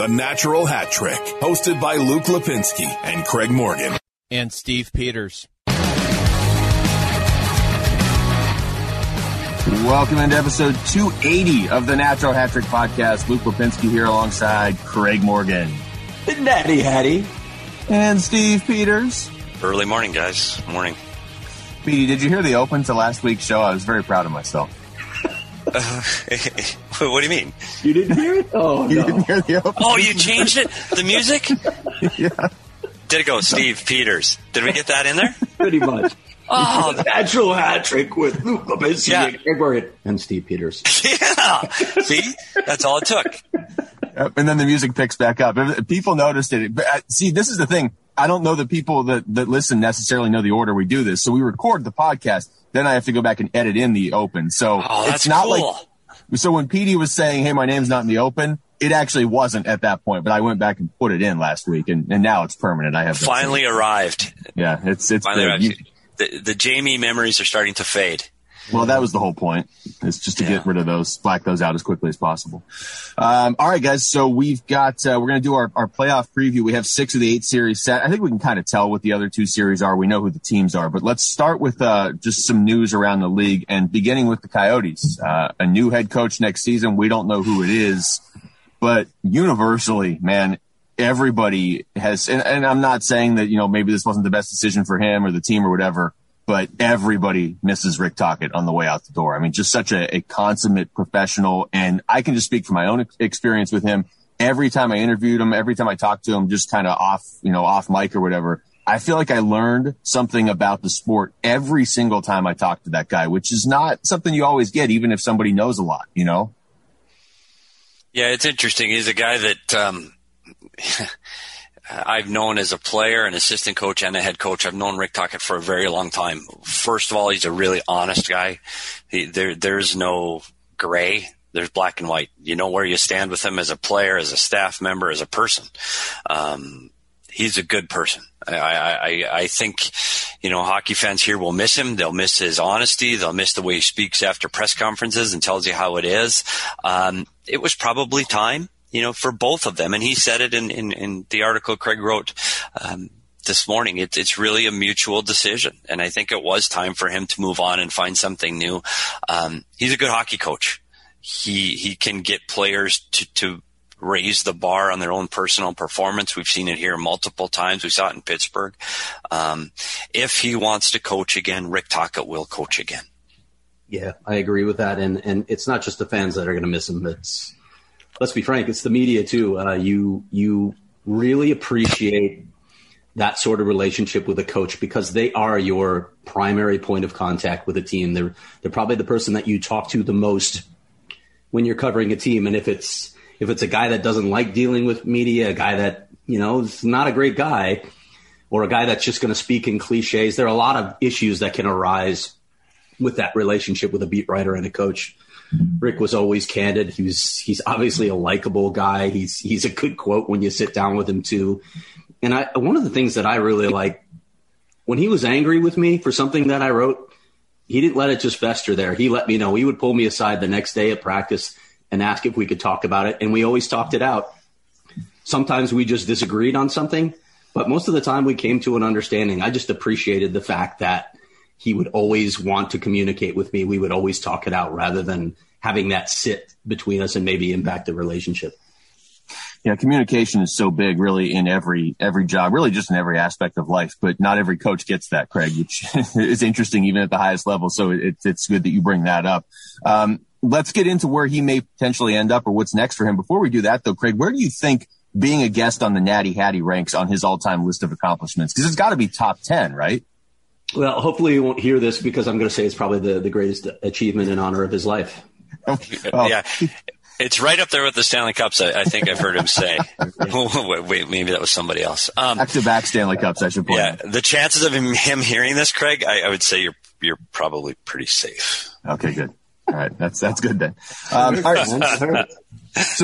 The Natural Hat Trick, hosted by Luke Lipinski and Craig Morgan. And Steve Peters. Welcome into episode 280 of the Natural Hat Trick podcast. Luke Lipinski here alongside Craig Morgan. Natty Hattie. And Steve Peters. Early morning, guys. Morning. Petey, did you hear the open to last week's show? I was very proud of myself. What do you mean? You didn't hear it? Oh, You no. didn't hear the open? Oh, you changed it? The music? Yeah. Did it go Steve Peters? Did we get that in there? Pretty much. Oh, The Natural Hat Trick with Luke Lipinski Yeah. and Steve Peters. yeah. See? That's all it took. Yep, and then the music picks back up. People noticed it. But, see, this is the thing. I don't know that people that listen necessarily know the order we do this. So we record the podcast. Then I have to go back and edit in the open. So that's it's not cool. So when Petey was saying, hey, my name's not in the open, it actually wasn't at that point. But I went back and put it in last week, and now it's permanent. I have Finally arrived. Yeah, it's Finally good. arrived. The Jamie memories are starting to fade. Well, that was the whole point. It's just to get rid of those, black those out as quickly as possible. All right, guys. So we've got, we're going to do our playoff preview. We have 6 of the 8 series set. I think we can kind of tell what the other 2 series are. We know who the teams are, but let's start with, just some news around the league and beginning with the Coyotes. A new head coach next season. We don't know who it is, but universally, man, everybody has, and I'm not saying that, maybe this wasn't the best decision for him or the team or whatever, but everybody misses Rick Tocchet on the way out the door. I mean, just such a consummate professional. And I can just speak from my own experience with him. Every time I interviewed him, every time I talked to him, just kind of off mic or whatever, I feel like I learned something about the sport every single time I talked to that guy, which is not something you always get, even if somebody knows a lot, Yeah, it's interesting. He's a guy that, I've known as a player, an assistant coach, and a head coach. I've known Rick Tocchet for a very long time. First of all, he's a really honest guy. There's no gray. There's black and white. You know where you stand with him as a player, as a staff member, as a person. He's a good person. I think, hockey fans here will miss him. They'll miss his honesty. They'll miss the way he speaks after press conferences and tells you how it is. It was probably time, for both of them. And he said it in the article Craig wrote this morning. It's really a mutual decision. And I think it was time for him to move on and find something new. He's a good hockey coach. He can get players to raise the bar on their own personal performance. We've seen it here multiple times. We saw it in Pittsburgh. If he wants to coach again, Rick Tocchet will coach again. Yeah, I agree with that. And it's not just the fans that are going to miss him. Let's be frank, it's the media too. You really appreciate that sort of relationship with a coach because they are your primary point of contact with a team. They're probably the person that you talk to the most when you're covering a team. And if it's a guy that doesn't like dealing with media, a guy that, is not a great guy, or a guy that's just going to speak in cliches, there are a lot of issues that can arise with that relationship with a beat writer and a coach. Rick was always candid. He's obviously a likable guy. He's a good quote when you sit down with him too. And one of the things that I really like, when he was angry with me for something that I wrote, he didn't let it just fester there. He let me know. He would pull me aside the next day at practice and ask if we could talk about it. And we always talked it out. Sometimes we just disagreed on something, but most of the time we came to an understanding. I just appreciated the fact that he would always want to communicate with me. We would always talk it out rather than having that sit between us and maybe impact the relationship. Yeah, communication is so big, really, in every job, really just in every aspect of life. But not every coach gets that, Craig, which is interesting even at the highest level. So it's good that you bring that up. Let's get into where he may potentially end up or what's next for him. Before we do that, though, Craig, where do you think being a guest on the Natty Hattie ranks on his all-time list of accomplishments? Because it's got to be top 10, right? Well, hopefully you won't hear this because I'm going to say it's probably the greatest achievement in honor of his life. Oh. Yeah. It's right up there with the Stanley Cups, I think I've heard him say. Wait, maybe that was somebody else. Back-to-back Stanley Cups, I should point out. Yeah, the chances of him hearing this, Craig, I would say you're probably pretty safe. Okay, good. All right, that's good then. All right. So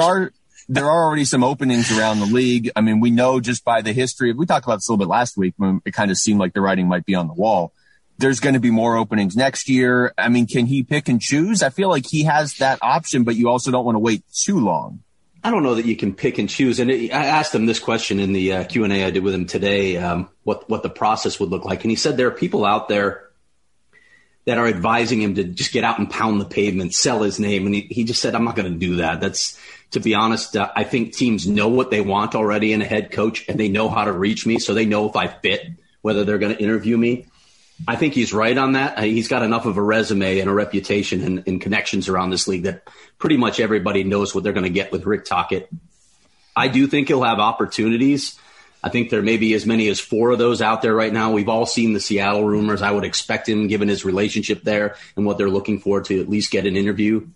there are already some openings around the league. I mean, we know just by the history. We talked about this a little bit last week when it kind of seemed like the writing might be on the wall. There's going to be more openings next year. I mean, can he pick and choose? I feel like he has that option, but you also don't want to wait too long. I don't know that you can pick and choose. And I asked him this question in the Q&A I did with him today, what the process would look like. And he said there are people out there that are advising him to just get out and pound the pavement, sell his name. And he just said, I'm not going to do that. That's, to be honest, I think teams know what they want already in a head coach, and they know how to reach me. So they know if I fit, whether they're going to interview me. I think he's right on that. He's got enough of a resume and a reputation and connections around this league that pretty much everybody knows what they're going to get with Rick Tocchet. I do think he'll have opportunities. I think there may be as many as 4 of those out there right now. We've all seen the Seattle rumors. I would expect him, given his relationship there and what they're looking for, to at least get an interview.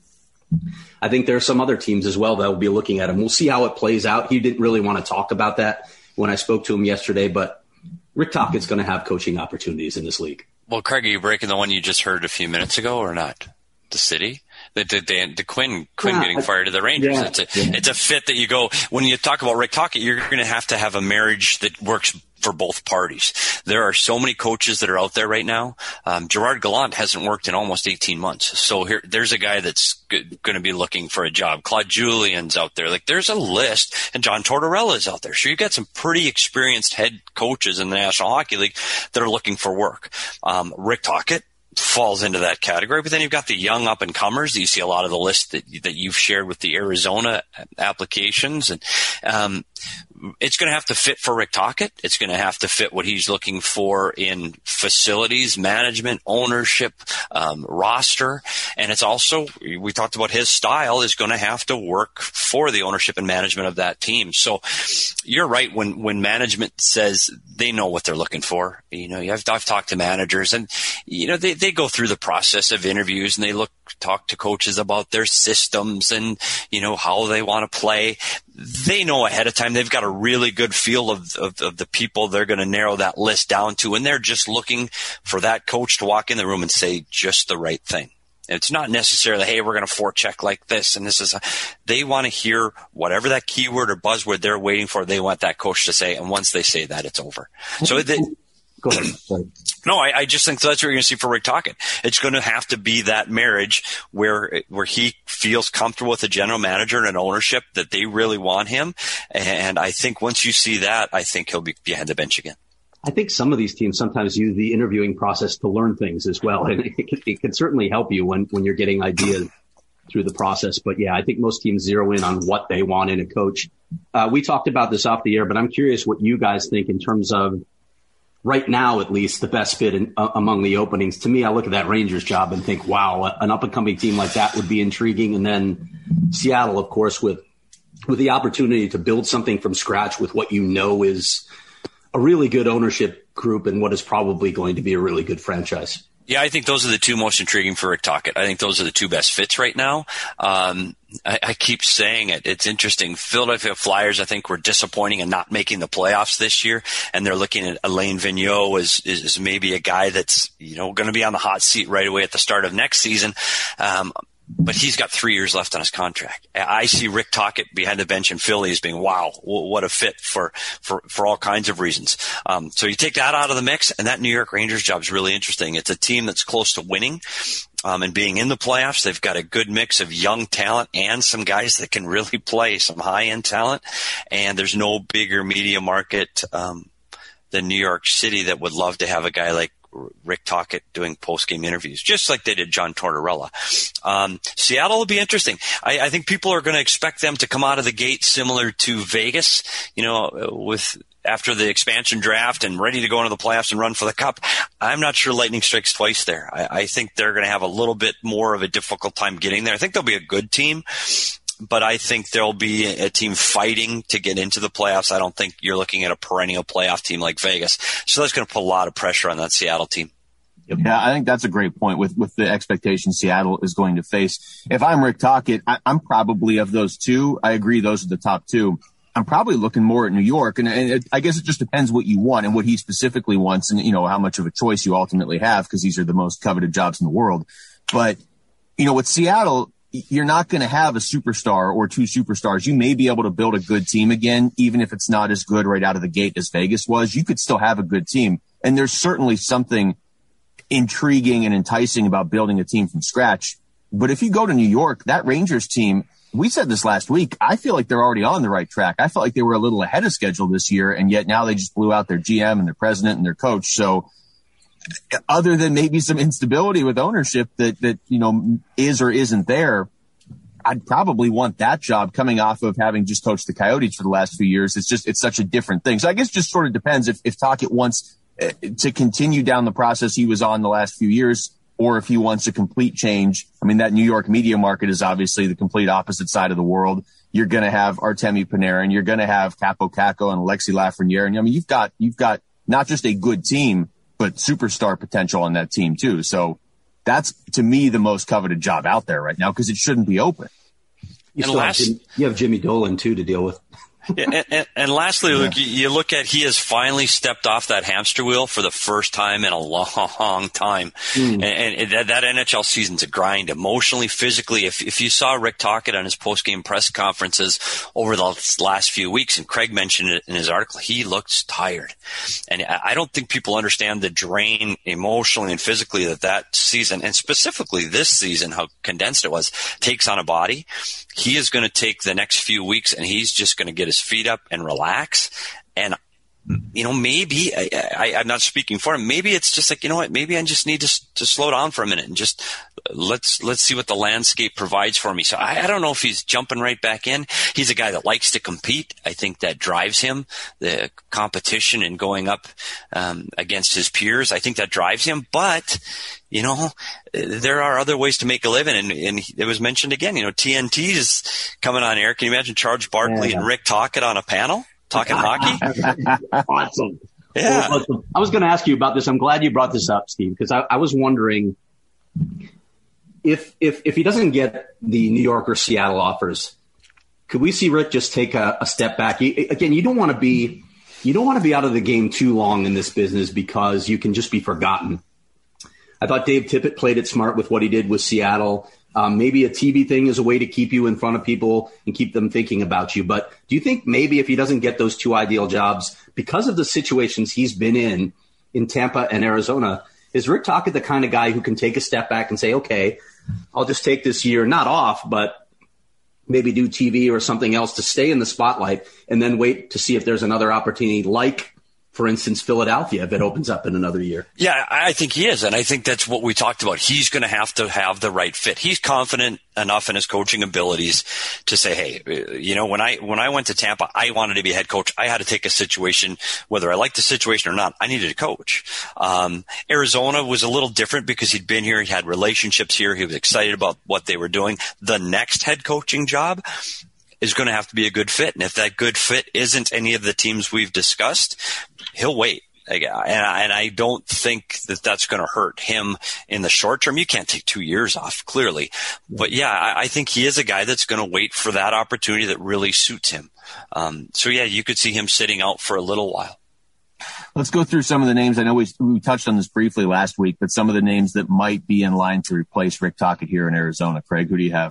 I think there are some other teams as well that will be looking at him. We'll see how it plays out. He didn't really want to talk about that when I spoke to him yesterday, but Rick Tocchet's going to have coaching opportunities in this league. Well, Craig, are you breaking the one you just heard a few minutes ago or not? The city? The Quinn getting fired to the Rangers. Yeah, it's a fit that you go, when you talk about Rick Tocchet, you're going to have a marriage that works for both parties. There are so many coaches that are out there right now. Gerard Gallant hasn't worked in almost 18 months. So there's a guy that's going to be looking for a job. Claude Julien's out there. Like, there's a list, and John Tortorella's out there. So you've got some pretty experienced head coaches in the National Hockey League that are looking for work. Rick Tocchet falls into that category, but then you've got the young up-and-comers. You see a lot of the list that you've shared with the Arizona applications, and it's going to have to fit for Rick Tocchet. It's going to have to fit what he's looking for in facilities, management, ownership, roster. And it's also, we talked about his style is going to have to work for the ownership and management of that team. So you're right. When management says they know what they're looking for, I've talked to managers, and, they go through the process of interviews, and they talk to coaches about their systems and, how they want to play. They know ahead of time. They've got a really good feel of the people they're going to narrow that list down to, and they're just looking for that coach to walk in the room and say just the right thing. It's not necessarily, hey, we're going to forecheck like this, and this is they want to hear whatever that keyword or buzzword they're waiting for. They want that coach to say, and once they say that, it's over. So go ahead. Sorry. No, I just think that's what you're going to see for Rick Tocchet. It's going to have to be that marriage where he feels comfortable with the general manager and an ownership that they really want him. And I think once you see that, I think he'll be behind the bench again. I think some of these teams sometimes use the interviewing process to learn things as well. And it can certainly help you when you're getting ideas through the process. But yeah, I think most teams zero in on what they want in a coach. We talked about this off the air, but I'm curious what you guys think in terms of, right now, at least, the best fit among the openings. To me, I look at that Rangers job and think, wow, an up-and-coming team like that would be intriguing. And then Seattle, of course, with the opportunity to build something from scratch with what is a really good ownership group and what is probably going to be a really good franchise. Yeah, I think those are the two most intriguing for Rick Tocchet. I think those are the two best fits right now. I keep saying it. It's interesting. Philadelphia Flyers, I think, were disappointing in not making the playoffs this year, and they're looking at Alain Vigneault as maybe a guy that's going to be on the hot seat right away at the start of next season. But he's got 3 years left on his contract. I see Rick Tocchet behind the bench in Philly as being, wow, what a fit for all kinds of reasons. So you take that out of the mix, and that New York Rangers job is really interesting. It's a team that's close to winning. And being in the playoffs, they've got a good mix of young talent and some guys that can really play, some high-end talent. And there's no bigger media market than New York City that would love to have a guy like Rick Tocchet doing post-game interviews, just like they did John Tortorella. Seattle will be interesting. I think people are going to expect them to come out of the gate similar to Vegas, with after the expansion draft and ready to go into the playoffs and run for the cup. I'm not sure lightning strikes twice there. I think they're going to have a little bit more of a difficult time getting there. I think they'll be a good team, but I think there'll be a team fighting to get into the playoffs. I don't think you're looking at a perennial playoff team like Vegas. So that's going to put a lot of pressure on that Seattle team. Yeah, I think that's a great point with the expectations Seattle is going to face. If I'm Rick Tocchet, I'm probably of those two. I agree those are the top two. I'm probably looking more at New York, and I guess it just depends what you want and what he specifically wants and, how much of a choice you ultimately have, because these are the most coveted jobs in the world. But, with Seattle, you're not going to have a superstar or two superstars. You may be able to build a good team again, even if it's not as good right out of the gate as Vegas was. You could still have a good team. And there's certainly something intriguing and enticing about building a team from scratch. But if you go to New York, that Rangers team, we said this last week. I feel like they're already on the right track. I felt like they were a little ahead of schedule this year, and yet now they just blew out their GM and their president and their coach. So other than maybe some instability with ownership that is or isn't there, I'd probably want that job coming off of having just coached the Coyotes for the last few years. It's such a different thing. So I guess just sort of depends if Tocchet wants to continue down the process he was on the last few years, or if he wants a complete change. I mean, that New York media market is obviously the complete opposite side of the world. You're going to have Artemi Panarin. You're going to have Capo Caco and Alexis Lafreniere. And I mean, you've got not just a good team, but superstar potential on that team too. So that's, to me, the most coveted job out there right now, because it shouldn't be open. You have Jimmy Dolan too to deal with. And lastly, Luke, you look at, he has finally stepped off that hamster wheel for the first time in a long time. And that NHL season's a grind, emotionally, physically. If you saw Rick Tocchet on his post-game press conferences over the last few weeks, and Craig mentioned it in his article, he looks tired. And I don't think people understand the drain emotionally and physically that season, and specifically this season, how condensed it was, takes on a body. He is going to take the next few weeks and he's just going to get his feet up and relax. And, maybe I'm not speaking for him. Maybe it's just like, maybe I just need to slow down for a minute and just let's see what the landscape provides for me. So I don't know if he's jumping right back in. He's a guy that likes to compete. I think that drives him, the competition and going up against his peers. I think that drives him. But, there are other ways to make a living. And it was mentioned again, TNT is coming on air. Can you imagine Charles Barkley and Rick Tocchet on a panel talking hockey? Awesome. Yeah. Well, I was going to ask you about this. I'm glad you brought this up, Steve, because I was wondering if he doesn't get the New York or Seattle offers, could we see Rick just take a step back? Again, you don't want to be out of the game too long in this business because you can just be forgotten. I thought Dave Tippett played it smart with what he did with Seattle. Maybe a TV thing is a way to keep you in front of people and keep them thinking about you. But do you think maybe if he doesn't get those two ideal jobs, because of the situations he's been in Tampa and Arizona, is Rick Tocchet the kind of guy who can take a step back and say, okay, I'll just take this year, not off, but maybe do TV or something else to stay in the spotlight and then wait to see if there's another opportunity like, for instance, Philadelphia, if it opens up in another year? Yeah, I think he is. And I think that's what we talked about. He's going to have the right fit. He's confident enough in his coaching abilities to say, hey, when I went to Tampa, I wanted to be head coach. I had to take a situation, whether I liked the situation or not, I needed a coach. Arizona was a little different because he'd been here. He had relationships here. He was excited about what they were doing. The next head coaching job is going to have to be a good fit. And if that good fit isn't any of the teams we've discussed, he'll wait. And I don't think that that's going to hurt him in the short term. You can't take 2 years off, clearly. But yeah, I think he is a guy that's going to wait for that opportunity that really suits him. So yeah, you could see him sitting out for a little while. Let's go through some of the names. I know we touched on this briefly last week, but some of the names that might be in line to replace Rick Tocchet here in Arizona. Craig, who do you have?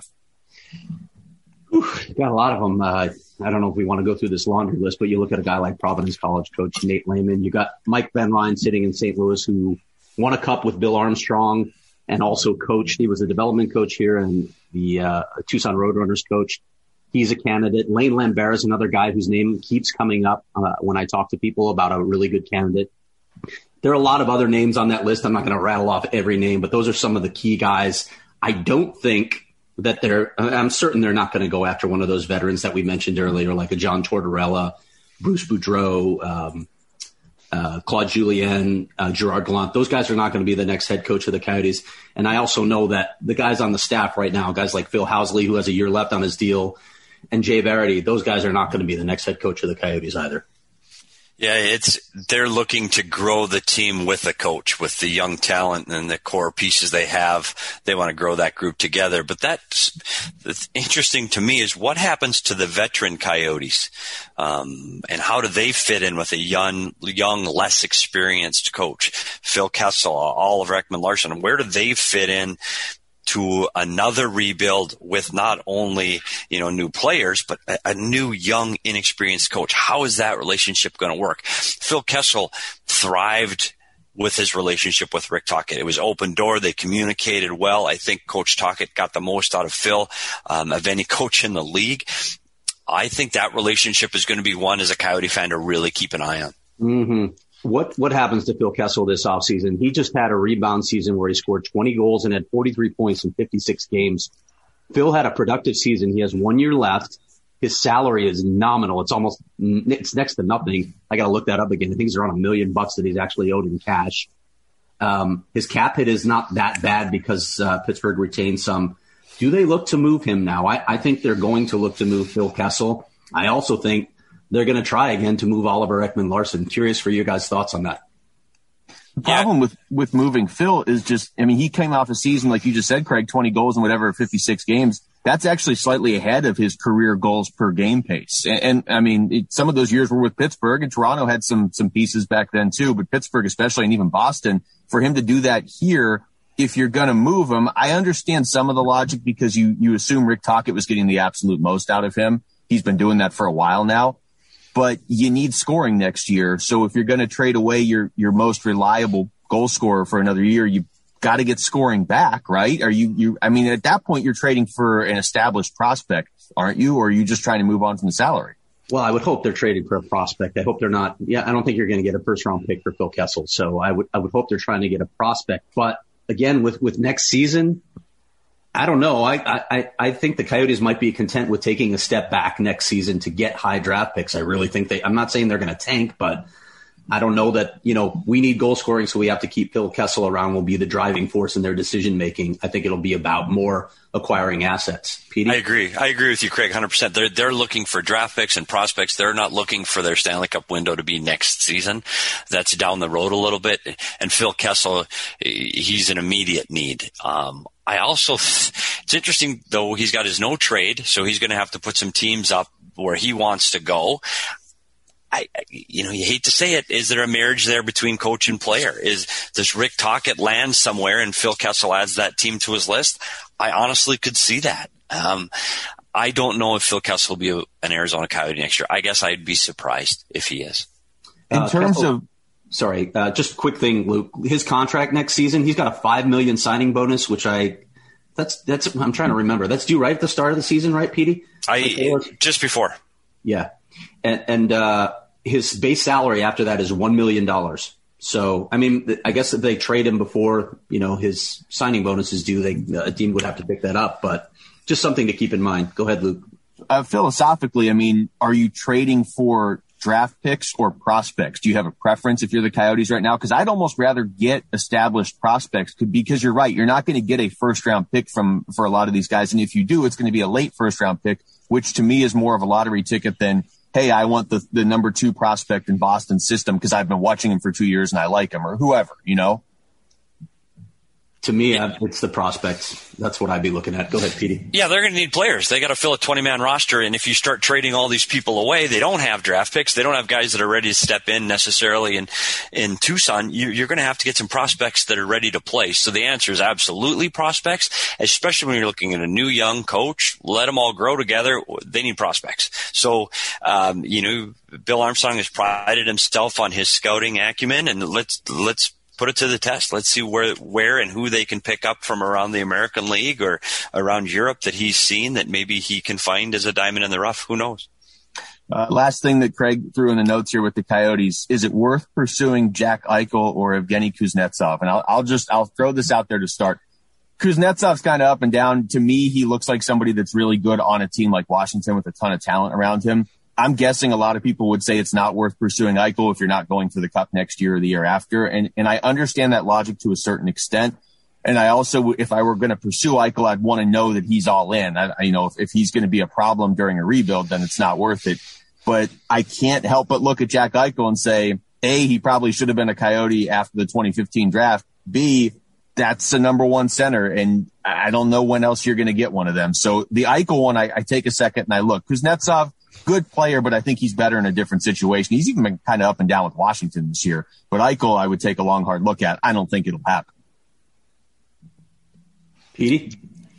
Got a lot of them. I don't know if we want to go through this laundry list, but you look at a guy like Providence College coach Nate Lehman. You got Mike Van Ryn sitting in St. Louis, who won a cup with Bill Armstrong and also coached. He was a development coach here and the Tucson Roadrunners coach. He's a candidate. Lane Lambert is another guy whose name keeps coming up when I talk to people about a really good candidate. There are a lot of other names on that list. I'm not going to rattle off every name, but those are some of the key guys. I don't think that I'm certain they're not going to go after one of those veterans that we mentioned earlier, like a John Tortorella, Bruce Boudreau, Claude Julien, Gerard Gallant. Those guys are not going to be the next head coach of the Coyotes. And I also know that the guys on the staff right now, guys like Phil Housley, who has a year left on his deal, and Jay Verity, those guys are not going to be the next head coach of the Coyotes either. Yeah, they're looking to grow the team with the coach, with the young talent and the core pieces they have. They want to grow that group together. But that's interesting to me is what happens to the veteran Coyotes, and how do they fit in with a young, less experienced coach? Phil Kessel, Oliver Ekman-Larsson, where do they fit in to another rebuild with not only, new players, but a new, young, inexperienced coach? How is that relationship going to work? Phil Kessel thrived with his relationship with Rick Tocchet. It was open door. They communicated well. I think Coach Tocchet got the most out of Phil of any coach in the league. I think that relationship is going to be one as a Coyote fan to really keep an eye on. Mm-hmm. What happens to Phil Kessel this offseason? He just had a rebound season where he scored 20 goals and had 43 points in 56 games. Phil had a productive season. He has 1 year left. His salary is nominal. It's next to nothing. I got to look that up again. I think he's around $1 million that he's actually owed in cash. His cap hit is not that bad because Pittsburgh retained some. Do they look to move him now? I think they're going to look to move Phil Kessel. I also think they're going to try again to move Oliver Ekman-Larsson. Curious for your guys' thoughts on that. The problem with moving Phil is just, I mean, he came off a season, like you just said, Craig, 20 goals in whatever, 56 games. That's actually slightly ahead of his career goals per game pace. And I mean, some of those years were with Pittsburgh, and Toronto had some pieces back then too, but Pittsburgh especially, and even Boston, for him to do that here, if you're going to move him, I understand some of the logic because you assume Rick Tocchet was getting the absolute most out of him. He's been doing that for a while now. But you need scoring next year. So if you're going to trade away your most reliable goal scorer for another year, you got to get scoring back, right? I mean, at that point, you're trading for an established prospect, aren't you? Or are you just trying to move on from the salary? Well, I would hope they're trading for a prospect. I hope they're not. Yeah, I don't think you're going to get a first round pick for Phil Kessel. So I would hope they're trying to get a prospect. But again, with next season, I don't know. I think the Coyotes might be content with taking a step back next season to get high draft picks. I really think I'm not saying they're going to tank, but I don't know that, we need goal scoring, so we have to keep Phil Kessel around will be the driving force in their decision making. I think it'll be about more acquiring assets. Petey? I agree with you, Craig, 100%. They're looking for draft picks and prospects. They're not looking for their Stanley Cup window to be next season. That's down the road a little bit. And Phil Kessel, he's an immediate need. It's interesting though, he's got his no trade, so he's going to have to put some teams up where he wants to go. You hate to say it. Is there a marriage there between coach and player? Does Rick Tocchet land somewhere and Phil Kessel adds that team to his list? I honestly could see that. I don't know if Phil Kessel will be an Arizona Coyote next year. I guess I'd be surprised if he is. In terms Kessel, of, sorry, just a quick thing, Luke. His contract next season, he's got a $5 million signing bonus, which that's I'm trying to remember. That's due right at the start of the season, right, Petey? Just before. Yeah. And his base salary after that is $1 million. So, I mean, I guess if they trade him before, his signing bonus is due, a team would have to pick that up, but just something to keep in mind. Go ahead, Luke. Philosophically, I mean, are you trading for draft picks or prospects? Do you have a preference if you're the Coyotes right now? Because I'd almost rather get established prospects because you're right. You're not going to get a first round pick for a lot of these guys. And if you do, it's going to be a late first round pick, which to me is more of a lottery ticket than, hey, I want the number 2 prospect in Boston's system because I've been watching him for 2 years and I like him, or whoever, To me, it's the prospects. That's what I'd be looking at. Go ahead, Petey. Yeah, they're going to need players. They got to fill a 20-man roster, and if you start trading all these people away, they don't have draft picks. They don't have guys that are ready to step in necessarily in Tucson. You're going to have to get some prospects that are ready to play. So the answer is absolutely prospects, especially when you're looking at a new young coach. Let them all grow together. They need prospects. So, Bill Armstrong has prided himself on his scouting acumen, and let's put it to the test. Let's see where and who they can pick up from around the American League or around Europe that he's seen that maybe he can find as a diamond in the rough. Who knows? Last thing that Craig threw in the notes here with the Coyotes, is it worth pursuing Jack Eichel or Evgeny Kuznetsov? And I'll throw this out there to start. Kuznetsov's kind of up and down. To me, he looks like somebody that's really good on a team like Washington with a ton of talent around him. I'm guessing a lot of people would say it's not worth pursuing Eichel if you're not going for the Cup next year or the year after. And I understand that logic to a certain extent. And I also, if I were going to pursue Eichel, I'd want to know that he's all in. If he's going to be a problem during a rebuild, then it's not worth it. But I can't help but look at Jack Eichel and say, A, he probably should have been a Coyote after the 2015 draft. B, that's the number 1 center. And I don't know when else you're going to get one of them. So the Eichel one, I take a second and I look. Kuznetsov, good player, but I think he's better in a different situation. He's even been kind of up and down with Washington this year. But Eichel, I would take a long, hard look at. I don't think it'll happen. Petey?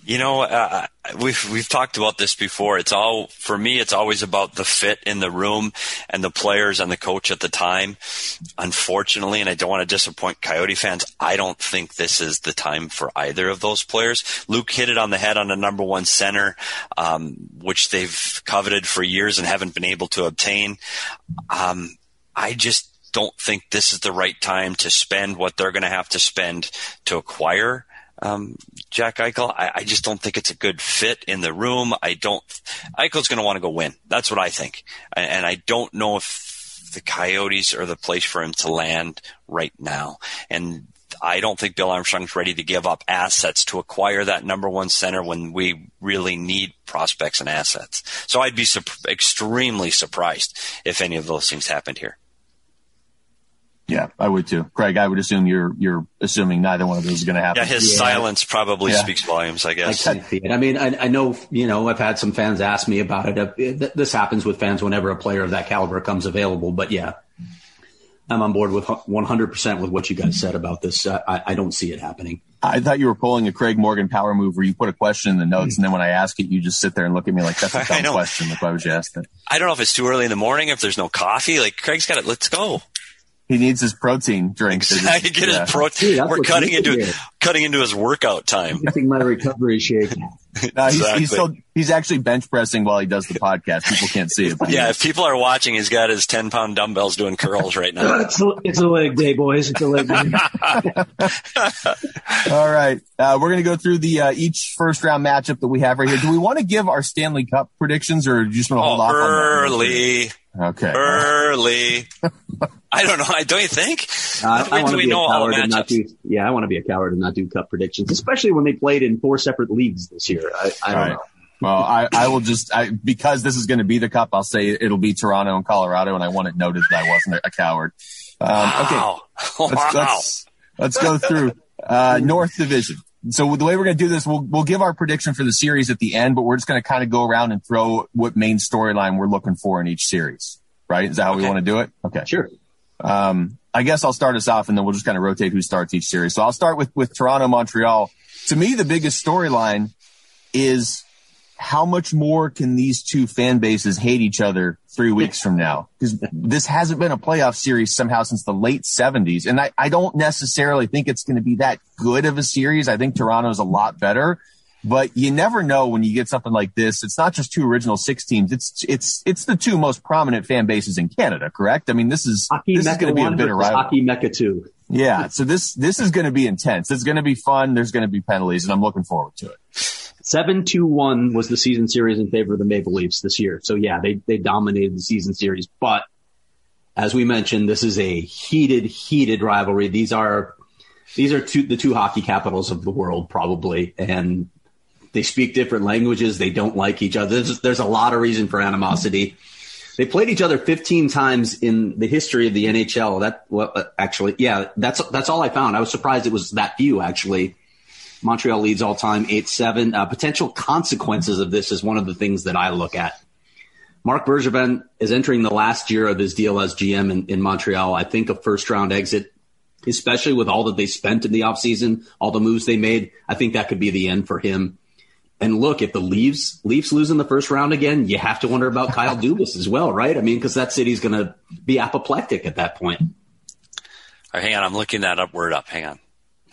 We've talked about this before. For me, it's always about the fit in the room and the players and the coach at the time. Unfortunately, and I don't want to disappoint Coyote fans, I don't think this is the time for either of those players. Luke hit it on the head on a number one center, which they've coveted for years and haven't been able to obtain. I just don't think this is the right time to spend what they're going to have to spend to acquire Jack Eichel. I just don't think it's a good fit in the room. Eichel's going to want to go win. That's what I think. And I don't know if the Coyotes are the place for him to land right now. And I don't think Bill Armstrong's ready to give up assets to acquire that number one center when we really need prospects and assets. So I'd be extremely surprised if any of those things happened here. Yeah, I would too. Craig, I would assume you're assuming neither one of those is going to happen. Yeah, his silence probably speaks volumes, I guess. I see it. I mean, I know, I've had some fans ask me about it. This happens with fans whenever a player of that caliber comes available. But yeah, I'm on board with 100% with what you guys said about this. I don't see it happening. I thought you were pulling a Craig Morgan power move where you put a question in the notes, and then when I ask it, you just sit there and look at me like that's a dumb question. Like, why would you ask that? I don't know if it's too early in the morning, if there's no coffee. Like, Craig's got it. Let's go. He needs his protein drink. Exactly. Get his protein. Dude, we're cutting into his workout time. I'm getting my recovery shake. He's actually bench pressing while he does the podcast. People can't see it. Yeah, if people are watching, he's got his 10-pound dumbbells doing curls right now. It's a leg day, boys. It's a leg day. All right. We're going to go through the each first round matchup that we have right here. Do we want to give our Stanley Cup predictions, or do you just want to hold off early? Okay. Early. I don't know. Don't you think? I want to be a coward and not do. Yeah, I want to be a coward and not do cup predictions, especially when they played in 4 separate leagues this year. I don't know. Well, I will just because this is going to be the cup. I'll say it'll be Toronto and Colorado, and I want it noted that I wasn't a coward. Wow. Okay. Let's go through North Division. So the way we're going to do this, we'll give our prediction for the series at the end, but we're just going to kind of go around and throw what main storyline we're looking for in each series. Right? Is that how we want to do it? Okay. Sure. I guess I'll start us off, and then we'll just kind of rotate who starts each series. So I'll start with Toronto, Montreal. To me, the biggest storyline is how much more can these two fan bases hate each other 3 weeks from now? Because this hasn't been a playoff series somehow since the late 70s. And I don't necessarily think it's going to be that good of a series. I think Toronto's a lot better. But you never know when you get something like this. It's not just two original 6 teams. It's the two most prominent fan bases in Canada, correct? I mean, this is going to be a bitter rivalry. Hockey Mecca 2. Yeah. So this is going to be intense. It's going to be fun. There's going to be penalties, and I'm looking forward to it. 7-2-1 was the season series in favor of the Maple Leafs this year. So yeah, they dominated the season series. But as we mentioned, this is a heated rivalry. These are the two hockey capitals of the world, probably, and they speak different languages. They don't like each other. There's a lot of reason for animosity. They played each other 15 times in the history of the NHL. That's all I found. I was surprised it was that few, actually. Montreal leads all time 8-7. Potential consequences of this is one of the things that I look at. Marc Bergevin is entering the last year of his deal as GM in Montreal. I think a first-round exit, especially with all that they spent in the offseason, all the moves they made, I think that could be the end for him. And look, if the Leafs lose in the first round again, you have to wonder about Kyle Dubas as well, right? I mean, because that city's going to be apoplectic at that point. All right, hang on. I'm looking that word up. Hang on.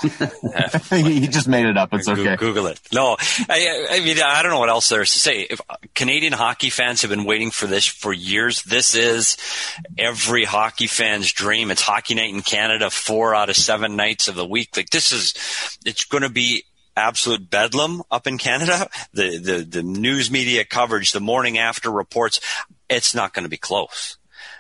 He just made it up. It's okay. Google it. No, I mean, I don't know what else there is to say. If Canadian hockey fans have been waiting for this for years, this is every hockey fan's dream. It's hockey night in Canada 4 out of 7 nights of the week. Like it's going to be absolute bedlam up in Canada. The news media coverage, the morning after reports, it's not going to be close.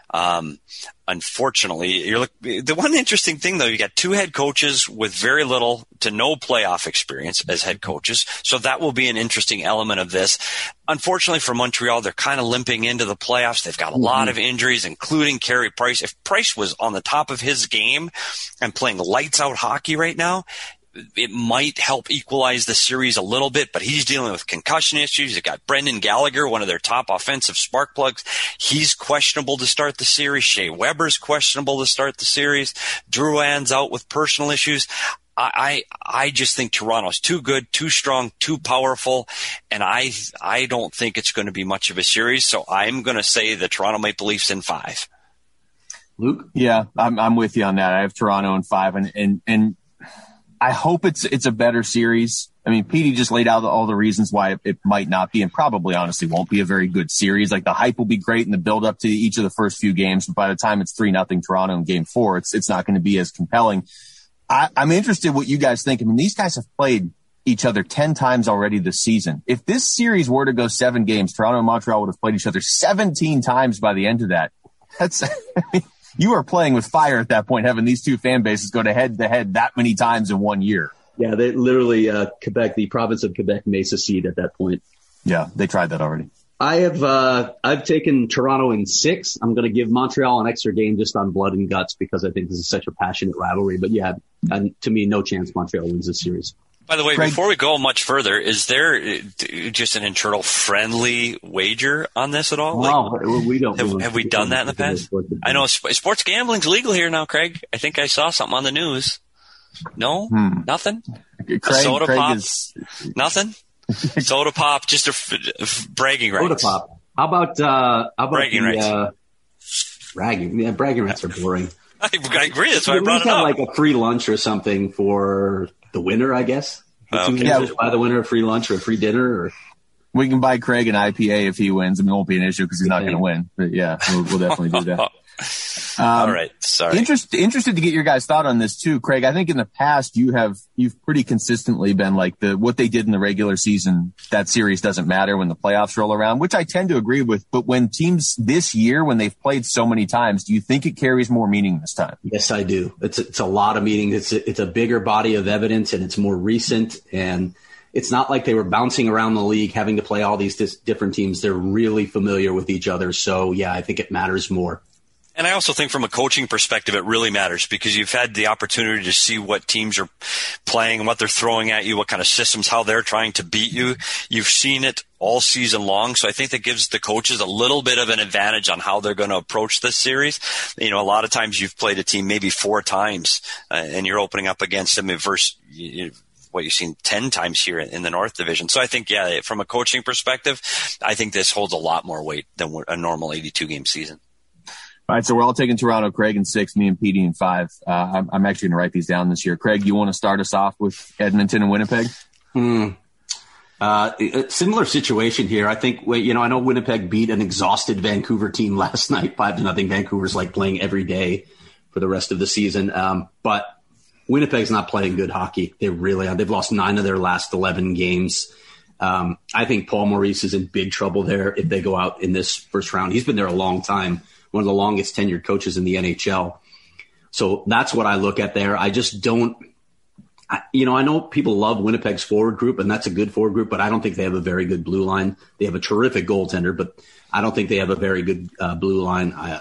Unfortunately, the one interesting thing though, you got 2 head coaches with very little to no playoff experience as head coaches. So that will be an interesting element of this. Unfortunately for Montreal, they're kind of limping into the playoffs. They've got a lot of injuries, including Carey Price. If Price was on the top of his game and playing lights out hockey right now, it might help equalize the series a little bit, but he's dealing with concussion issues. You've got Brendan Gallagher, one of their top offensive spark plugs. He's questionable to start the series. Shea Weber's questionable to start the series. Drouin's out with personal issues. I just think Toronto's too good, too strong, too powerful, and I don't think it's going to be much of a series. So I'm going to say the Toronto Maple Leafs in 5. Luke? Yeah, I'm with you on that. I have Toronto in 5, and I hope it's a better series. I mean, Petey just laid out all the reasons why it might not be, and probably honestly won't be a very good series. Like, the hype will be great in the build up to each of the first few games, but by the time it's 3-0 Toronto in Game 4, it's not going to be as compelling. I'm interested what you guys think. I mean, these guys have played each other 10 times already this season. If this series were to go 7 games, Toronto and Montreal would have played each other 17 times by the end of that. That's you are playing with fire at that point, having these two fan bases go to head that many times in 1 year. Yeah, they literally Quebec, the province of Quebec, may secede at that point. Yeah, they tried that already. I've taken Toronto in 6. I'm going to give Montreal an extra game just on blood and guts because I think this is such a passionate rivalry. But yeah, to me, no chance Montreal wins this series. By the way, Craig, before we go much further, is there just an internal friendly wager on this at all? No, we don't. Have we done that in the past? I know sports gambling's legal here now, Craig. I think I saw something on the news. No? Nothing? Soda pop? Nothing? Soda pop, just a bragging rights. Soda pop. How about bragging rights? Bragging. Yeah, bragging rights are boring. I agree. That's why I brought it up. Like a free lunch or something for the winner, I guess. Okay. Buy the winner a free lunch or a free dinner. Or we can buy Craig an IPA if he wins. I mean, it won't be an issue because he's not going to win. But yeah, we'll definitely do that. All right. Sorry. Interested to get your guys' thought on this too, Craig. I think in the past you've pretty consistently been like what they did in the regular season, that series doesn't matter when the playoffs roll around, which I tend to agree with. But when teams this year, when they've played so many times, do you think it carries more meaning this time? Yes, I do. It's a lot of meaning. It's a bigger body of evidence, and it's more recent. And it's not like they were bouncing around the league, having to play all these different teams. They're really familiar with each other. So yeah, I think it matters more. And I also think from a coaching perspective, it really matters because you've had the opportunity to see what teams are playing and what they're throwing at you, what kind of systems, how they're trying to beat you. You've seen it all season long. So I think that gives the coaches a little bit of an advantage on how they're going to approach this series. You know, a lot of times you've played a team maybe 4 times and you're opening up against them versus what you've seen 10 times here in the North Division. So I think, yeah, from a coaching perspective, I think this holds a lot more weight than a normal 82-game season. All right, so we're all taking Toronto, Craig in 6, me and Petey in 5. I'm actually going to write these down this year. Craig, you want to start us off with Edmonton and Winnipeg? A similar situation here. I think, I know Winnipeg beat an exhausted Vancouver team last night, 5-0. Vancouver's like playing every day for the rest of the season. But Winnipeg's not playing good hockey. They really are. They've lost 9 of their last 11 games. I think Paul Maurice is in big trouble there if they go out in this first round. He's been there a long time. One of the longest tenured coaches in the NHL. So that's what I look at there. I just don't, I know people love Winnipeg's forward group, and that's a good forward group, but I don't think they have a very good blue line. They have a terrific goaltender, but I don't think they have a very good blue line. I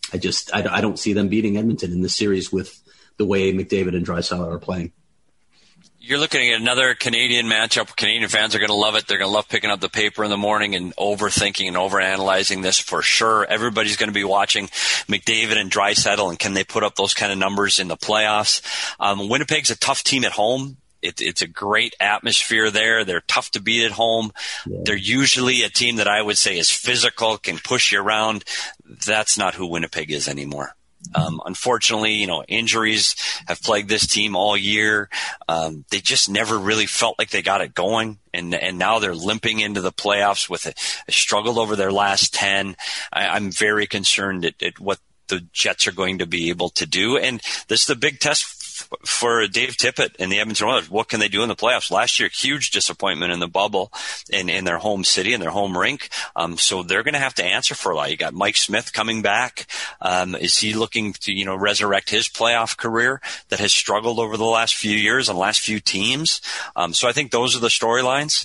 don't see them beating Edmonton in this series with the way McDavid and Draisaitl are playing. You're looking at another Canadian matchup. Canadian fans are going to love it. They're going to love picking up the paper in the morning and overthinking and overanalyzing this for sure. Everybody's going to be watching McDavid and Draisaitl, and can they put up those kind of numbers in the playoffs? Winnipeg's a tough team at home. It's a great atmosphere there. They're tough to beat at home. Yeah. They're usually a team that I would say is physical, can push you around. That's not who Winnipeg is anymore. Unfortunately, injuries have plagued this team all year. They just never really felt like they got it going. And now they're limping into the playoffs with a struggled over their last 10. I'm very concerned at what the Jets are going to be able to do. And this is the big test for Dave Tippett and the Edmonton Oilers. What can they do in the playoffs? Last year, huge disappointment in the bubble in their home city and their home rink. So they're going to have to answer for a lot. You got Mike Smith coming back. Is he looking to, resurrect his playoff career that has struggled over the last few years and last few teams? So I think those are the storylines.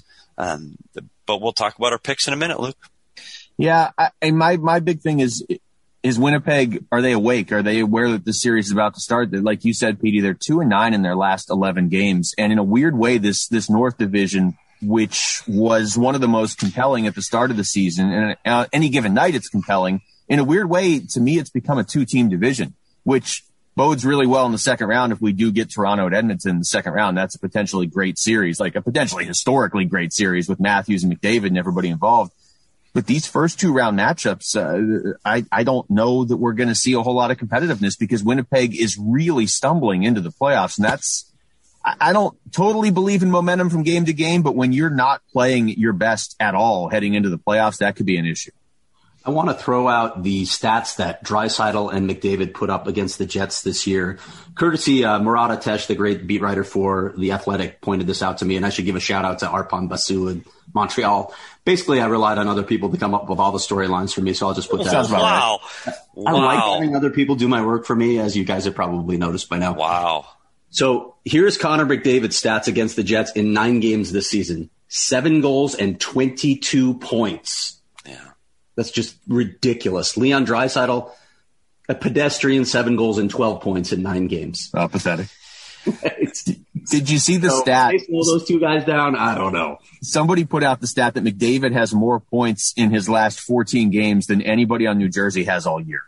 But we'll talk about our picks in a minute, Luke. Yeah. And my big thing is Winnipeg, are they awake? Are they aware that the series is about to start? Like you said, Petey, they're 2-9 in their last 11 games. And in a weird way, this North Division, which was one of the most compelling at the start of the season, and any given night it's compelling. In a weird way, to me, it's become a 2-team division, which bodes really well in the second round. If we do get Toronto at Edmonton in the second round, that's a potentially great series, like a potentially historically great series with Matthews and McDavid and everybody involved. But these first 2 round matchups, I don't know that we're going to see a whole lot of competitiveness because Winnipeg is really stumbling into the playoffs. And I don't totally believe in momentum from game to game, but when you're not playing your best at all heading into the playoffs, that could be an issue. I want to throw out the stats that Draisaitl and McDavid put up against the Jets this year. Courtesy, Murat Atesh, the great beat writer for The Athletic, pointed this out to me, and I should give a shout out to Arpon Basu in Montreal. Basically, I relied on other people to come up with all the storylines for me, so I'll just put that out. Wow. I like having other people do my work for me, as you guys have probably noticed by now. Wow. So here's Connor McDavid's stats against the Jets in 9 games this season. 7 goals and 22 points. That's just ridiculous. Leon Draisaitl, a pedestrian, 7 goals and 12 points in 9 games. Oh, pathetic. Did you see the stat? They slow those 2 guys down? I don't know. Somebody put out the stat that McDavid has more points in his last 14 games than anybody on New Jersey has all year.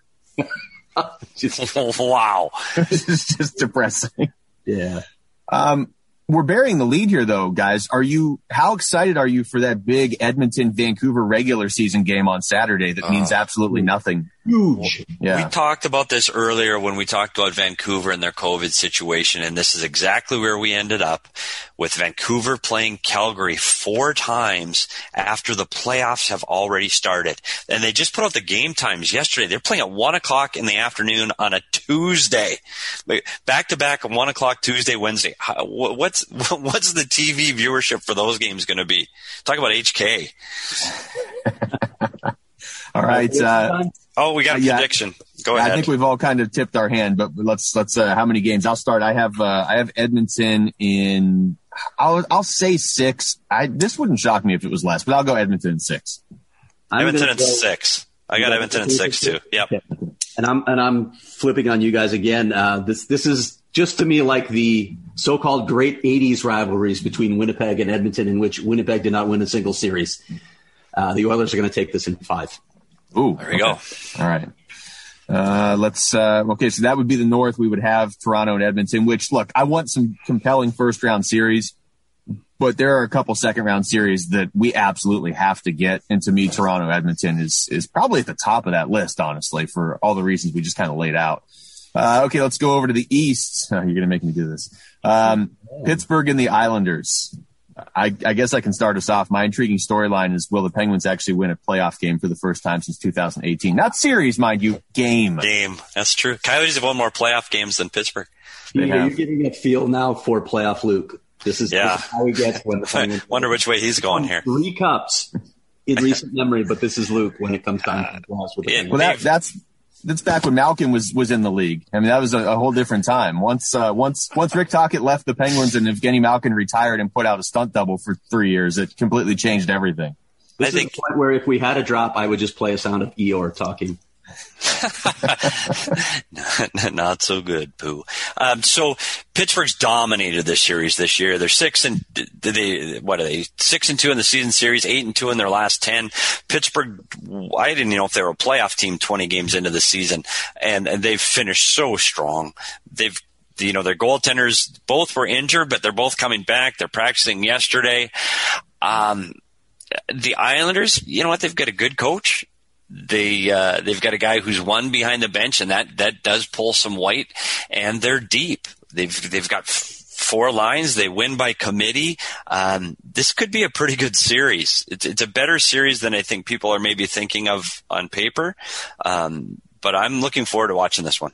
Wow. It's just depressing. Yeah. We're burying the lead here, though, guys. How excited are you for that big Edmonton-Vancouver regular season game on Saturday that means absolutely nothing? Huge. Yeah. We talked about this earlier when we talked about Vancouver and their COVID situation, and this is exactly where we ended up, with Vancouver playing Calgary 4 times after the playoffs have already started. And they just put out the game times yesterday. They're playing at 1 o'clock in the afternoon on a Tuesday. Back-to-back 1 o'clock Tuesday, Wednesday. What's the TV viewership for those games going to be? Talk about HK. All right. We got a prediction. Go ahead. I think we've all kind of tipped our hand, but let's how many games? I'll start. I have Edmonton in, I'll say 6. This wouldn't shock me if it was less, but I'll go Edmonton in 6. Edmonton in 6. I got Edmonton in 6 too. Yep. And I'm flipping on you guys again. This is just to me like the so-called great 80s rivalries between Winnipeg and Edmonton, in which Winnipeg did not win a single series. The Oilers are going to take this in 5. Ooh, there we go. All right. Okay, so that would be the North. We would have Toronto and Edmonton, which, look, I want some compelling first-round series, but there are a couple second-round series that we absolutely have to get. And to me, Toronto-Edmonton is probably at the top of that list, honestly, for all the reasons we just kind of laid out. Okay, let's go over to the East. You're going to make me do this. Pittsburgh and the Islanders. I guess I can start us off. My intriguing storyline is, will the Penguins actually win a playoff game for the first time since 2018? Not series, mind you, game. That's true. Coyotes have won more playoff games than Pittsburgh. You're getting a feel now for playoff Luke. This is how he gets when the Penguins. Wonder which way he's going here. 3 cups in recent memory, but this is Luke when it comes time to the playoffs with the Penguins. Well, that's back when Malkin was in the league. I mean, that was a whole different time. Once Rick Tocchet left the Penguins and Evgeny Malkin retired and put out a stunt double for 3 years, it completely changed everything. This is the point where if we had a drop, I would just play a sound of Eeyore talking. Not so good, Pooh. So Pittsburgh's dominated this series this year. They're 6-2 in the season series, 8-2 in their last 10. Pittsburgh, I didn't know if they were a playoff team 20 games into the season, and they've finished so strong. Their goaltenders both were injured, but they're both coming back. They're practicing yesterday. The Islanders, you know what? They've got a good coach. They've got a guy who's won behind the bench, and that does pull some weight, and they're deep. They've got 4 lines. They win by committee. This could be a pretty good series. It's a better series than I think people are maybe thinking of on paper. But I'm looking forward to watching this one.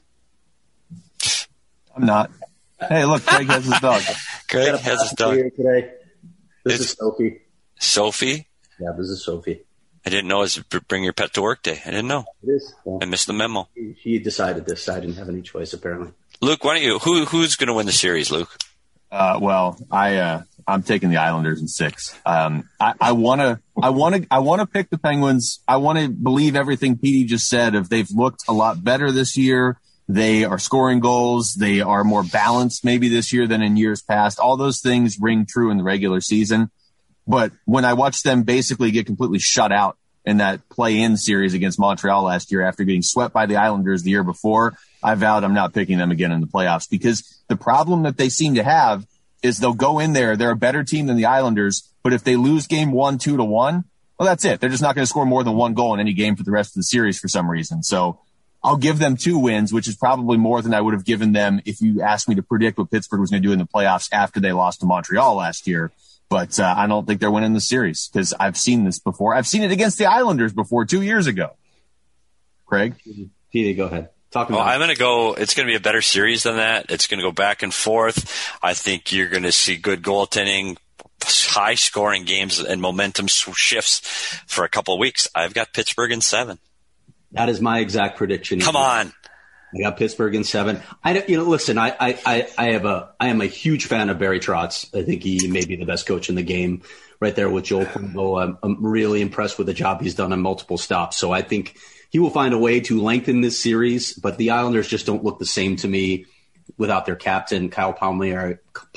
I'm not. Hey, look, Craig has his dog. Craig has his dog. Today. This is Sophie. Sophie? Yeah, this is Sophie. I didn't know it was bring your pet to work day. I didn't know. It is. Yeah. I missed the memo. He decided this. I didn't have any choice, apparently. Luke, why don't you? Who's going to win the series, Luke? I'm taking the Islanders in 6. I want to pick the Penguins. I want to believe everything Petey just said. If they've looked a lot better this year, they are scoring goals. They are more balanced maybe this year than in years past. All those things ring true in the regular season. But when I watch them basically get completely shut out in that play-in series against Montreal last year after getting swept by the Islanders the year before, I vowed I'm not picking them again in the playoffs, because the problem that they seem to have is they'll go in there. They're a better team than the Islanders, but if they lose game 1, 2-1, well, that's it. They're just not going to score more than one goal in any game for the rest of the series for some reason. So I'll give them 2 wins, which is probably more than I would have given them if you asked me to predict what Pittsburgh was going to do in the playoffs after they lost to Montreal last year. But I don't think they're winning the series, because I've seen this before. I've seen it against the Islanders before 2 years ago. Craig? Petey, go ahead. I'm going to go – it's going to be a better series than that. It's going to go back and forth. I think you're going to see good goaltending, high-scoring games, and momentum shifts for a couple of weeks. I've got Pittsburgh in 7. That is my exact prediction. Come on. I got Pittsburgh in 7. Listen, I am a huge fan of Barry Trotz. I think he may be the best coach in the game, right there with Joel Quenneville. I'm really impressed with the job he's done on multiple stops. So I think he will find a way to lengthen this series, but the Islanders just don't look the same to me without their captain. Kyle Palmieri,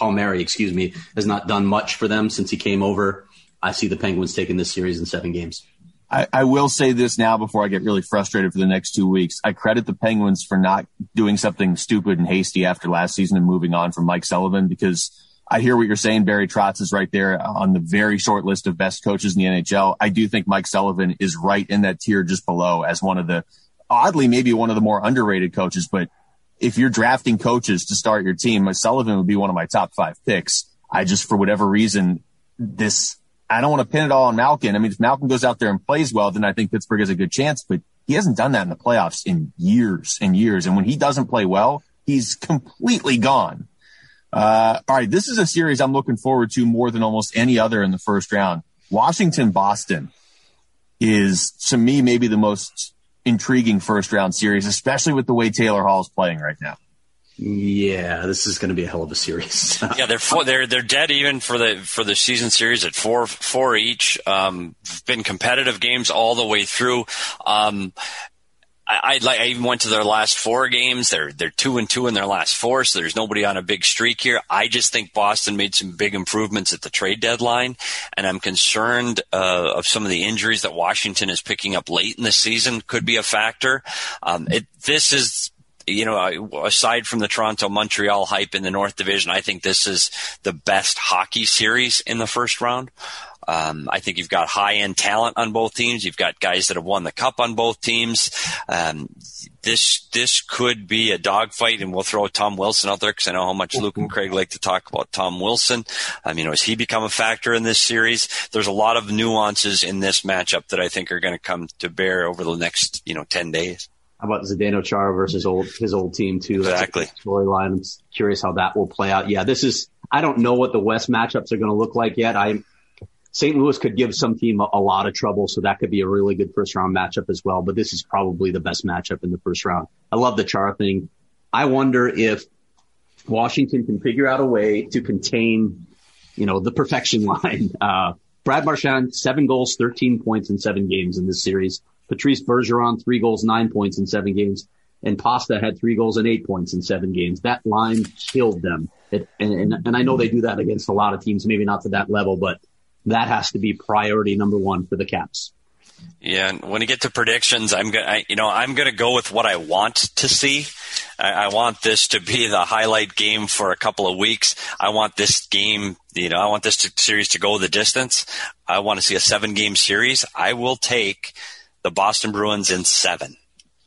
has not done much for them since he came over. I see the Penguins taking this series in 7 games. I will say this now before I get really frustrated for the next 2 weeks. I credit the Penguins for not doing something stupid and hasty after last season and moving on from Mike Sullivan, because I hear what you're saying. Barry Trotz is right there on the very short list of best coaches in the NHL. I do think Mike Sullivan is right in that tier just below as one of the, oddly, maybe one of the more underrated coaches. But if you're drafting coaches to start your team, Sullivan would be one of my top 5 picks. I just, for whatever reason, I don't want to pin it all on Malkin. I mean, if Malkin goes out there and plays well, then I think Pittsburgh has a good chance, but he hasn't done that in the playoffs in years and years. And when he doesn't play well, he's completely gone. All right. This is a series I'm looking forward to more than almost any other in the first round. Washington-Boston is, to me, maybe the most intriguing first round series, especially with the way Taylor Hall is playing right now. Yeah, this is going to be a hell of a series. Yeah, they're dead even for the season series at 4 each. Been competitive games all the way through. I even went to their last 4 games. They're 2-2 in their last 4, so there's nobody on a big streak here. I just think Boston made some big improvements at the trade deadline, and I'm concerned of some of the injuries that Washington is picking up late in the season could be a factor. This is, aside from the Toronto-Montreal hype in the North Division, I think this is the best hockey series in the first round. I think you've got high-end talent on both teams. You've got guys that have won the cup on both teams. This could be a dogfight, and we'll throw Tom Wilson out there because I know how much Luke and Craig like to talk about Tom Wilson. Has he become a factor in this series? There's a lot of nuances in this matchup that I think are going to come to bear over the next, 10 days. How about Zdeno Chara versus his old team too? Exactly. That's a storyline. I'm curious how that will play out. Yeah, I don't know what the West matchups are going to look like yet. St. Louis could give some team a lot of trouble, so that could be a really good first round matchup as well. But this is probably the best matchup in the first round. I love the Chara thing. I wonder if Washington can figure out a way to contain, the perfection line. Brad Marchand, 7 goals, 13 points in 7 games in this series. Patrice Bergeron, 3 goals, 9 points in 7 games. And Pasta had 3 goals and 8 points in 7 games. That line killed them. And I know they do that against a lot of teams, maybe not to that level, but that has to be priority number 1 for the Caps. Yeah, and when you get to predictions, I'm gonna go with what I want to see. I want this to be the highlight game for a couple of weeks. I want this game, I want this series to go the distance. I want to see a 7-game series. I will take the Boston Bruins in 7.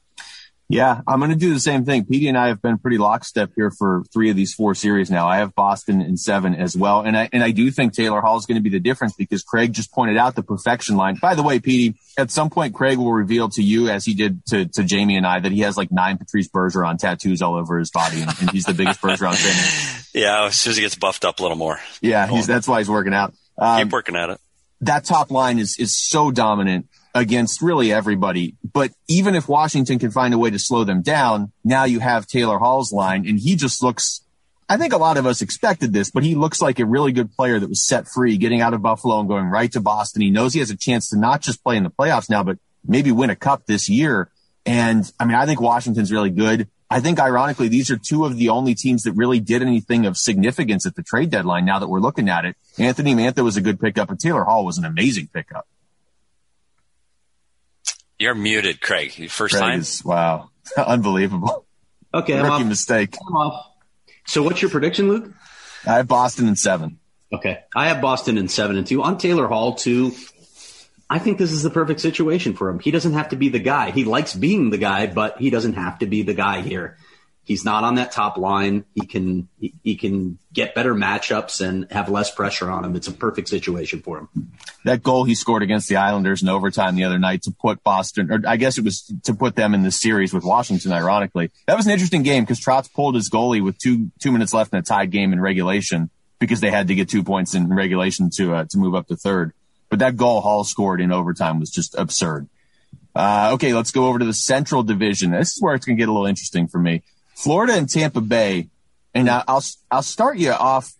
Yeah, I'm going to do the same thing. Petey and I have been pretty lockstep here for 3 of these 4 series now. I have Boston in 7 as well. And I do think Taylor Hall is going to be the difference because Craig just pointed out the perfection line. By the way, Petey, at some point, Craig will reveal to you, as he did to Jamie and I, that he has like 9 Patrice Bergeron tattoos all over his body. And he's the biggest Bergeron fan. Yeah, as soon as he gets buffed up a little more. Yeah, that's why he's working out. Keep working at it. That top line is so dominant against really everybody. But even if Washington can find a way to slow them down, now you have Taylor Hall's line, and he just looks, I think a lot of us expected this, but he looks like a really good player that was set free, getting out of Buffalo and going right to Boston. He knows he has a chance to not just play in the playoffs now, but maybe win a cup this year. And I think Washington's really good. I think ironically, these are 2 of the only teams that really did anything of significance at the trade deadline now that we're looking at it. Anthony Mantha was a good pickup, and Taylor Hall was an amazing pickup. You're muted, Craig. First Craig time? Wow. Unbelievable. Okay, Rookie mistake. I'm off. So what's your prediction, Luke? I have Boston in 7. Okay. I have Boston in 7-2. On Taylor Hall, too, I think this is the perfect situation for him. He doesn't have to be the guy. He likes being the guy, but he doesn't have to be the guy here. He's not on that top line. He can get better matchups and have less pressure on him. It's a perfect situation for him. That goal he scored against the Islanders in overtime the other night to put Boston, or I guess it was to put them in the series with Washington, ironically. That was an interesting game because Trotz pulled his goalie with two minutes left in a tied game in regulation because they had to get 2 points in regulation to move up to third. But that goal Hall scored in overtime was just absurd. Okay, let's go over to the Central Division. This is where it's going to get a little interesting for me. Florida and Tampa Bay, and I'll start you off.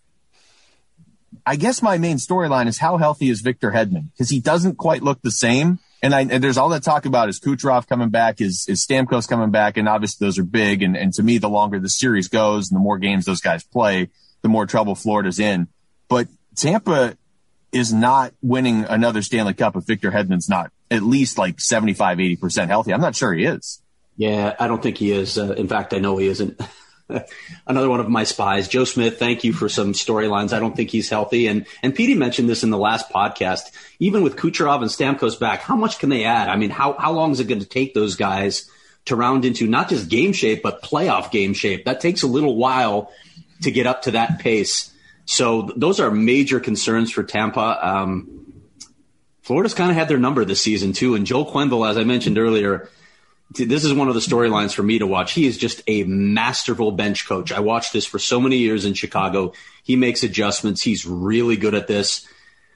I guess my main storyline is how healthy is Victor Hedman, because he doesn't quite look the same. And there's all that talk about is Kucherov coming back, is Stamkos coming back, and obviously those are big. And to me, the longer the series goes and the more games those guys play, the more trouble Florida's in. But Tampa is not winning another Stanley Cup if Victor Hedman's not at least like 75, 80% healthy. I'm not sure he is. Yeah, I don't think he is. In fact, I know he isn't. Another one of my spies, Joe Smith. Thank you for some storylines. I don't think he's healthy. And Petey mentioned this in the last podcast. Even with Kucherov and Stamkos back, how much can they add? I mean, how long is it going to take those guys to round into not just game shape, but playoff game shape? That takes a little while to get up to that pace. So those are major concerns for Tampa. Florida's kind of had their number this season too. And Joel Quenneville, as I mentioned earlier, this is one of the storylines for me to watch. He is just a masterful bench coach. I watched this for so many years in Chicago. He makes adjustments. He's really good at this.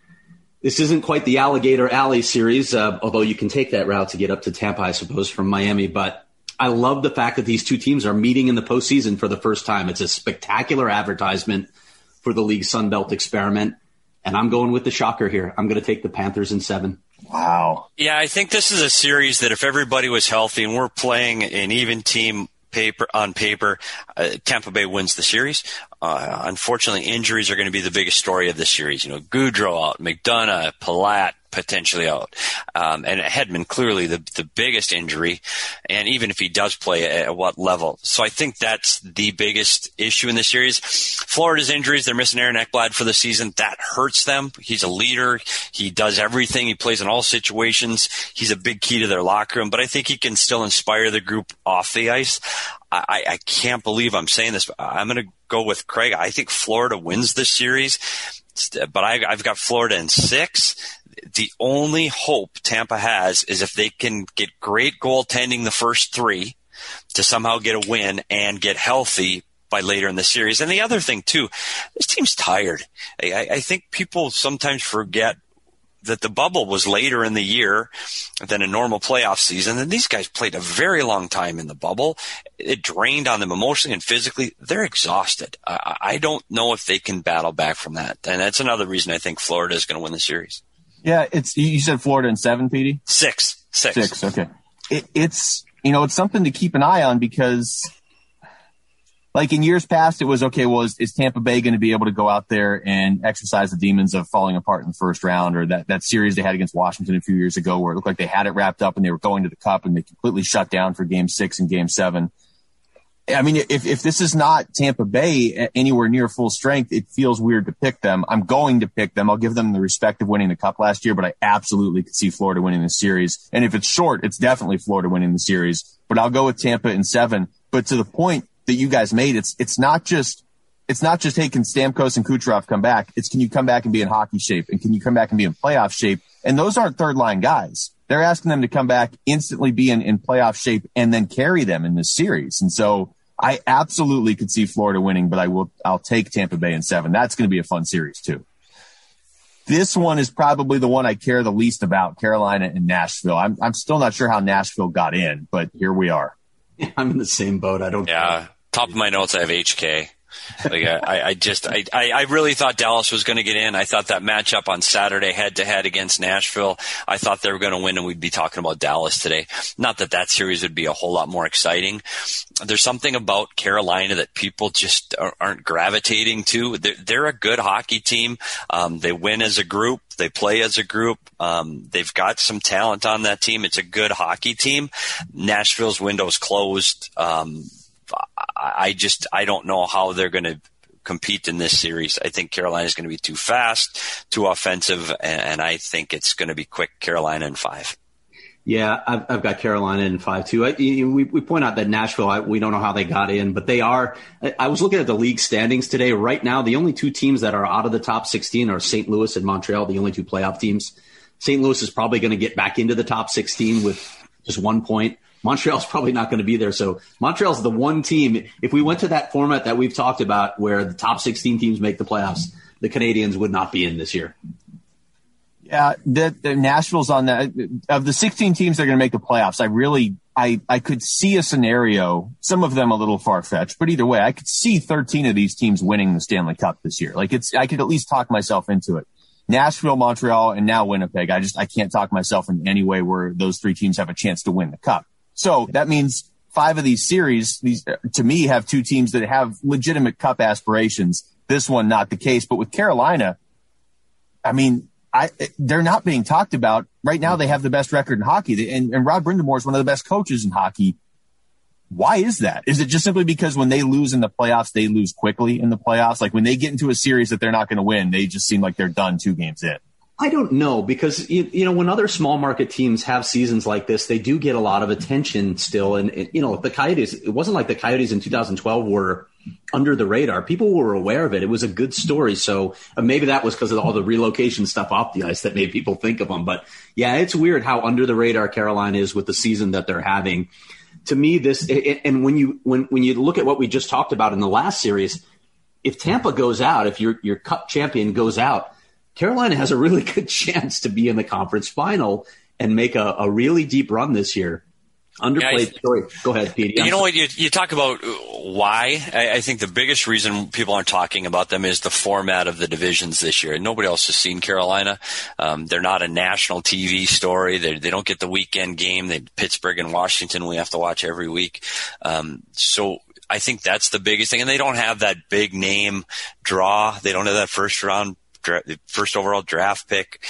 This isn't quite the Alligator Alley series, although you can take that route to get up to Tampa, I suppose, from Miami. But I love the fact that these two teams are meeting in the postseason for the first time. It's a spectacular advertisement for the league Sunbelt experiment. And I'm going with the shocker here. I'm going to take the Panthers in 7. Wow. Yeah, I think this is a series that if everybody was healthy and we're playing an even team on paper, Tampa Bay wins the series. Unfortunately, injuries are going to be the biggest story of this series. Goudreau out, McDonough, Palat potentially out, and Hedman clearly the biggest injury. And even if he does play, at what level? So I think that's the biggest issue in the series. Florida's injuries, they're missing Aaron Ekblad for the season. That hurts them. He's a leader. He does everything. He plays in all situations. He's a big key to their locker room, but I think he can still inspire the group off the ice. I can't believe I'm saying this, but I'm going to go with Craig. I think Florida wins this series, but I've got Florida in 6. The only hope Tampa has is if they can get great goaltending the first 3 to somehow get a win and get healthy by later in the series. And the other thing, too, this team's tired. I think people sometimes forget that the bubble was later in the year than a normal playoff season. And these guys played a very long time in the bubble. It drained on them emotionally and physically. They're exhausted. I don't know if they can battle back from that. And that's another reason I think Florida is going to win the series. Yeah, you said Florida in 7, Petey? 6. 6, okay. It's something to keep an eye on because, like in years past, it was, okay, well, is Tampa Bay going to be able to go out there and exercise the demons of falling apart in the first round, or that series they had against Washington a few years ago where it looked like they had it wrapped up and they were going to the Cup and they completely shut down for Game 6 and Game 7. I mean, if this is not Tampa Bay anywhere near full strength, it feels weird to pick them. I'm going to pick them. I'll give them the respect of winning the Cup last year, but I absolutely could see Florida winning the series. And if it's short, it's definitely Florida winning the series. But I'll go with Tampa in 7. But to the point that you guys made, it's not just, hey, can Stamkos and Kucherov come back? It's, can you come back and be in hockey shape? And can you come back and be in playoff shape? And those aren't third line guys. They're asking them to come back, instantly be in playoff shape, and then carry them in this series. And so I absolutely could see Florida winning, but I'll take Tampa Bay in 7. That's going to be a fun series too. This one is probably the one I care the least about, Carolina and Nashville. I'm still not sure how Nashville got in, but here we are. I'm in the same boat. I don't care. Top of my notes, I have HK. Like I really thought Dallas was going to get in. I thought that matchup on Saturday head to head against Nashville, I thought they were going to win, and we'd be talking about Dallas today. Not that series would be a whole lot more exciting. There's something about Carolina that people just aren't gravitating to. They're a good hockey team. They win as a group. They play as a group. They've got some talent on that team. It's a good hockey team. Nashville's window's closed. I don't know how they're going to compete in this series. I think Carolina's going to be too fast, too offensive, and I think it's going to be quick Carolina in 5. Yeah, I've got Carolina in 5 too. We point out that Nashville, we don't know how they got in, but they are. I was looking at the league standings today. Right now, the only 2 teams that are out of the top 16 are St. Louis and Montreal, the only 2 playoff teams. St. Louis is probably going to get back into the top 16 with just 1 point. Montreal's probably not going to be there. So Montreal's the one team. If we went to that format that we've talked about where the top 16 teams make the playoffs, the Canadiens would not be in this year. Yeah, the Nashville's on that. Of the 16 teams that are going to make the playoffs, I could see a scenario, some of them a little far-fetched, but either way, I could see 13 of these teams winning the Stanley Cup this year. Like I could at least talk myself into it. Nashville, Montreal, and now Winnipeg. I can't talk myself in any way where those 3 teams have a chance to win the cup. So that means 5 of these series, these to me have 2 teams that have legitimate cup aspirations. This one, not the case. But with Carolina, I mean, they're not being talked about right now. They have the best record in hockey, and Rod Brind'Amour is one of the best coaches in hockey. Why is that? Is it just simply because when they lose in the playoffs, they lose quickly in the playoffs? Like when they get into a series that they're not going to win, they just seem like they're done 2 games in. I don't know, because you know when other small market teams have seasons like this, they do get a lot of attention still. And the Coyotes, it wasn't like the Coyotes in 2012 were under the radar. People were aware of it. It was a good story. So maybe that was because of all the relocation stuff off the ice that made people think of them. But yeah, it's weird how under the radar Carolina is with the season that they're having. To me, this, and when you look at what we just talked about in the last series, if Tampa goes out, if your cup champion goes out, Carolina has a really good chance to be in the conference final and make a really deep run this year. Underplayed story. Go ahead, Pete. You know what? You talk about why. I think the biggest reason people aren't talking about them is the format of the divisions this year. Nobody else has seen Carolina. They're not a national TV story. They don't get the weekend game. Pittsburgh and Washington we have to watch every week. So I think that's the biggest thing. And they don't have that big name draw. They don't have that first overall draft pick.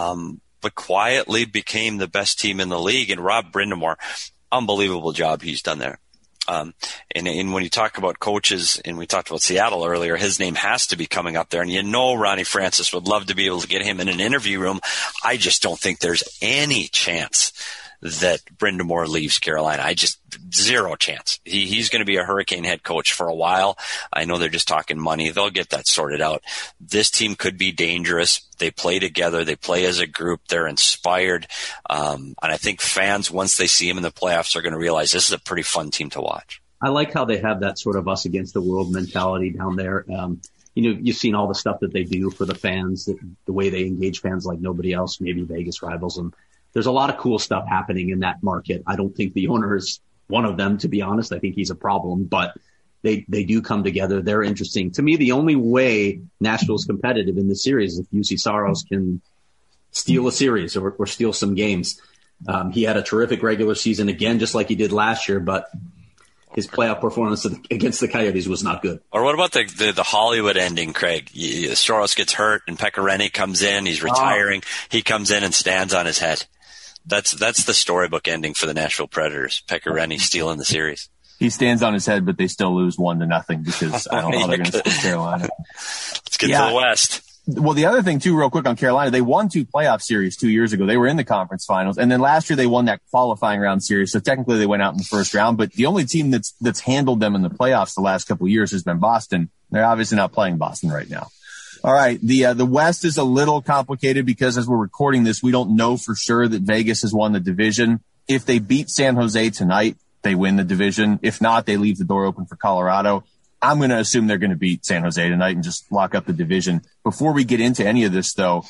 But quietly became the best team in the league. And Rod Brind'Amour, unbelievable job he's done there. And when you talk about coaches, and we talked about Seattle earlier, his name has to be coming up there. And Ronnie Francis would love to be able to get him in an interview room. I just don't think there's any chance that Brind'Amour leaves Carolina. Zero chance. He's going to be a Hurricane head coach for a while. I know they're just talking money. They'll get that sorted out. This team could be dangerous. They play together. They play as a group. They're inspired. And I think fans, once they see him in the playoffs, are going to realize this is a pretty fun team to watch. I like how they have that sort of us against the world mentality down there. You've seen all the stuff that they do for the fans, the way they engage fans like nobody else. Maybe Vegas rivals them. There's a lot of cool stuff happening in that market. I don't think the owner is one of them, to be honest. I think he's a problem, but they do come together. They're interesting. To me, the only way Nashville's competitive in this series is if UC Saros can steal a series or steal some games. He had a terrific regular season again, just like he did last year, but his playoff performance against the Coyotes was not good. Or what about the Hollywood ending, Craig? Saros gets hurt and Pekka Rinne comes in. He's retiring. He comes in and stands on his head. That's the storybook ending for the Nashville Predators. Pekka Rinne stealing the series. He stands on his head, but they still lose 1-0 because I don't know how they're going to score Carolina. Let's get to the West. Well, the other thing, too, real quick on Carolina, they won 2 playoff series 2 years ago. They were in the conference finals. And then last year they won that qualifying round series. So technically they went out in the first round. But the only team that's handled them in the playoffs the last couple of years has been Boston. They're obviously not playing Boston right now. All right. The West is a little complicated because as we're recording this, we don't know for sure that Vegas has won the division. If they beat San Jose tonight, they win the division. If not, they leave the door open for Colorado. I'm going to assume they're going to beat San Jose tonight and just lock up the division. Before we get into any of this, though,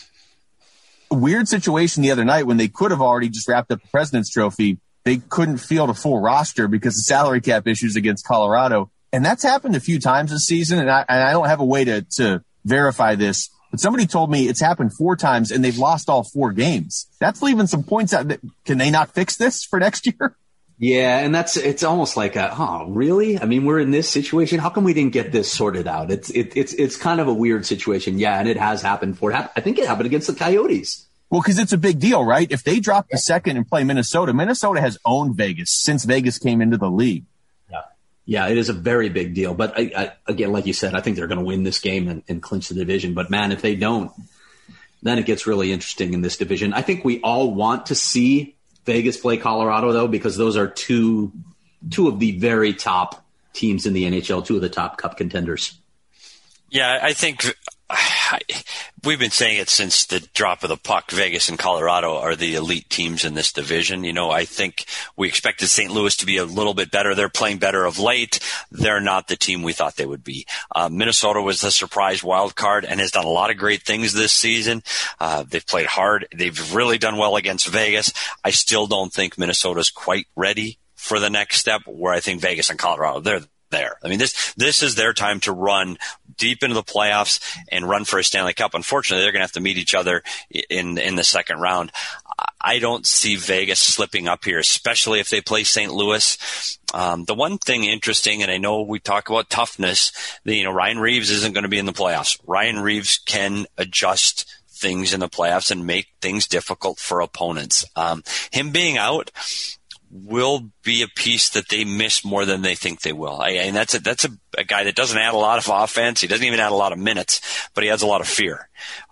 a weird situation the other night when they could have already just wrapped up the President's Trophy. They couldn't field a full roster because of salary cap issues against Colorado. And that's happened a few times this season, and I don't have a way to verify this, but somebody told me it's happened 4 times, and they've lost all 4 games. That's leaving some points out. Can they not fix this for next year? Yeah, and it's almost like, really? I mean, we're in this situation. How come we didn't get this sorted out? It's kind of a weird situation. Yeah, and it has happened I think it happened against the Coyotes. Well, because it's a big deal, right? If they drop the second and play Minnesota has owned Vegas since Vegas came into the league. Yeah, it is a very big deal. But again, like you said, I think they're going to win this game and clinch the division. But man, if they don't, then it gets really interesting in this division. I think we all want to see Vegas play Colorado, though, because those are two of the very top teams in the NHL, 2 of the top cup contenders. Yeah, I think we've been saying it since the drop of the puck. Vegas and Colorado are the elite teams in this division. I think we expected St. Louis to be a little bit better. They're playing better of late. They're not the team we thought they would be. Minnesota was the surprise wild card and has done a lot of great things this season. They've played hard. They've really done well against Vegas. I still don't think Minnesota's quite ready for the next step, where I think Vegas and Colorado, they're there. I mean, this is their time to run deep into the playoffs and run for a Stanley Cup. Unfortunately, they're going to have to meet each other in the second round. I don't see Vegas slipping up here, especially if they play St. Louis. The one thing interesting, and I know we talk about toughness, Ryan Reeves isn't going to be in the playoffs. Ryan Reeves can adjust things in the playoffs and make things difficult for opponents. Him being out will be a piece that they miss more than they think they will. And that's a guy that doesn't add a lot of offense. He doesn't even add a lot of minutes, but he adds a lot of fear.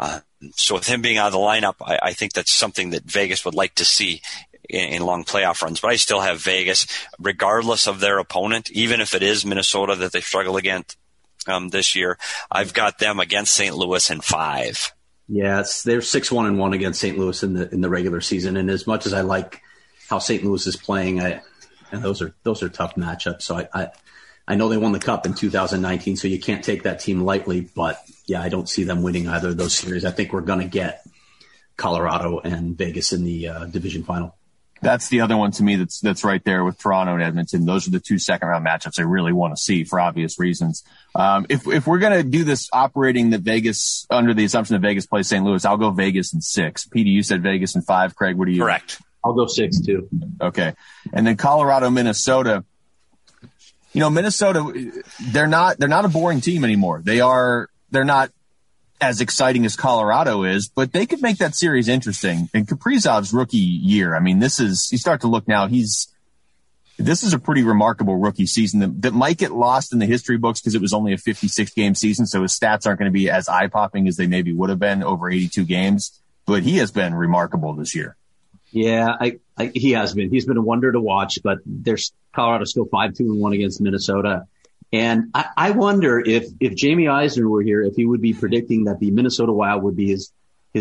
So with him being out of the lineup, I think that's something that Vegas would like to see in long playoff runs. But I still have Vegas, regardless of their opponent, even if it is Minnesota that they struggle against this year. I've got them against St. Louis in 5. Yeah, they're 6-1-1 against St. Louis in the regular season. And as much as I like how St. Louis is playing, and those are tough matchups. So I know they won the Cup in 2019, so you can't take that team lightly. But yeah, I don't see them winning either of those series. I think we're going to get Colorado and Vegas in the division final. That's the other one to me that's right there with Toronto and Edmonton. Those are the 2 second-round matchups I really want to see for obvious reasons. If we're going to do this operating that Vegas, under the assumption that Vegas plays St. Louis, I'll go Vegas in 6. Petey, you said Vegas in 5. Craig, what do you? Correct. I'll go 6 too. Okay. And then Colorado, Minnesota. Minnesota, they're not a boring team anymore. They're not as exciting as Colorado is, but they could make that series interesting. And Kaprizov's rookie year, I mean, you start to look now, this is a pretty remarkable rookie season that might get lost in the history books because it was only a 56-game season, so his stats aren't going to be as eye-popping as they maybe would have been over 82 games. But he has been remarkable this year. Yeah, he has been. He's been a wonder to watch, but there's Colorado's still 5-2-1 against Minnesota. And I wonder if Jamie Eisner were here, if he would be predicting that the Minnesota Wild would be his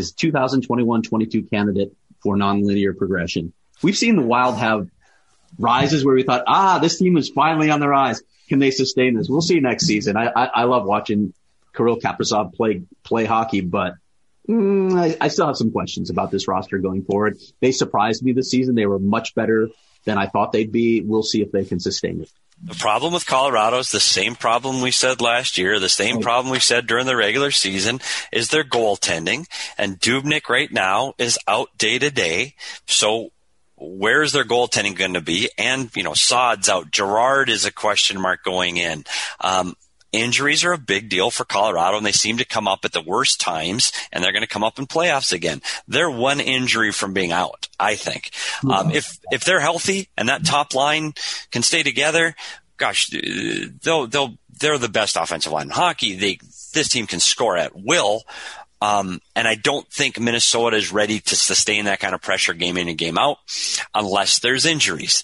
2021-22 candidate for nonlinear progression. We've seen the Wild have rises where we thought, this team is finally on the rise. Can they sustain this? We'll see next season. I love watching Kirill Kaprizov play hockey, but I still have some questions about this roster going forward. They surprised me this season. They were much better than I thought they'd be. We'll see if they can sustain it. The problem with Colorado is the same problem we said last year, the same problem we said during the regular season, is their goaltending. And Dubnyk right now is out day to day. So where's their goaltending going to be? And, Saad's out. Gerard is a question mark going in. Injuries are a big deal for Colorado, and they seem to come up at the worst times, and they're going to come up in playoffs again. They're one injury from being out, I think. If they're healthy and that top line can stay together, gosh, they're the best offensive line in hockey. This team can score at will. And I don't think Minnesota is ready to sustain that kind of pressure game in and game out unless there's injuries.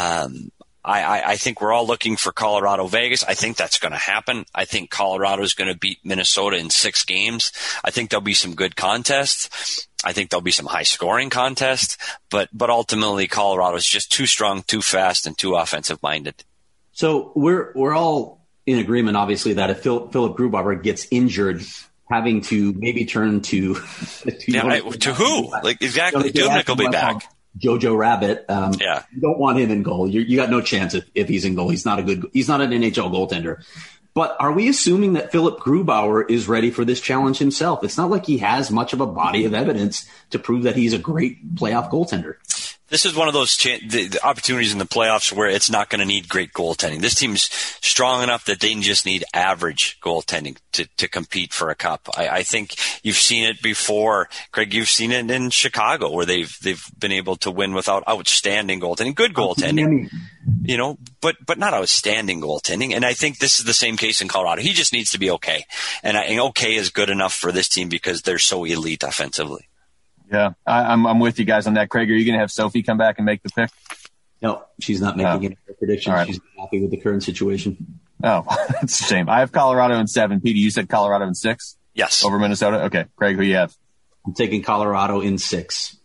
I think we're all looking for Colorado Vegas. I think that's going to happen. I think Colorado is going to beat Minnesota in 6 games. I think there'll be some good contests. I think there'll be some high scoring contests, but ultimately Colorado is just too strong, too fast, and too offensive minded. So we're all in agreement, obviously, that if Philip Grubauer gets injured, having to maybe turn to who? Like exactly, Dubnyk will be back. Jojo Rabbit. Yeah. You don't want him in goal. You got no chance if he's in goal. He's not an NHL goaltender. But are we assuming that Philip Grubauer is ready for this challenge himself? It's not like he has much of a body of evidence to prove that he's a great playoff goaltender. This is one of those the opportunities in the playoffs where it's not going to need great goaltending. This team's strong enough that they just need average goaltending to compete for a cup. I think you've seen it before, Craig. You've seen it in Chicago where they've been able to win without outstanding goaltending, good goaltending, but not outstanding goaltending. And I think this is the same case in Colorado. He just needs to be okay, and okay is good enough for this team because they're so elite offensively. Yeah, I'm with you guys on that. Craig, are you going to have Sophie come back and make the pick? No, she's not making any predictions. Right. She's happy with the current situation. Oh, that's a shame. I have Colorado in 7. Petey, you said Colorado in 6? Yes. Over Minnesota? Okay. Craig, who you have? I'm taking Colorado in 6.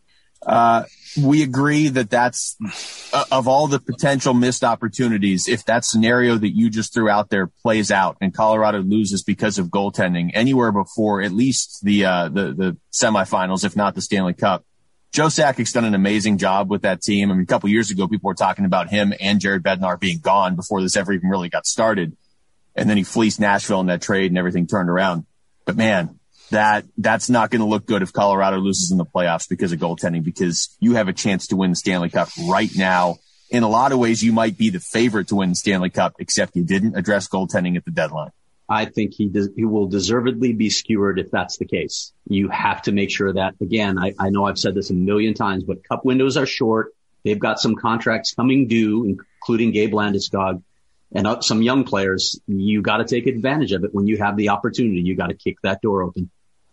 We agree that that's of all the potential missed opportunities, if that scenario that you just threw out there plays out and Colorado loses because of goaltending anywhere before at least the semifinals, if not the Stanley Cup, Joe Sakic's done an amazing job with that team. I mean, a couple years ago, people were talking about him and Jared Bednar being gone before this ever even really got started. And then he fleeced Nashville in that trade and everything turned around. But man, that's not going to look good if Colorado loses in the playoffs because of goaltending, because you have a chance to win the Stanley Cup right now. In a lot of ways, you might be the favorite to win the Stanley Cup, except you didn't address goaltending at the deadline. I think he will deservedly be skewered if that's the case. You have to make sure that, again, I know I've said this a million times, but cup windows are short. They've got some contracts coming due, including Gabe Landeskog and some young players. You got to take advantage of it when you have the opportunity. You got to kick that door open.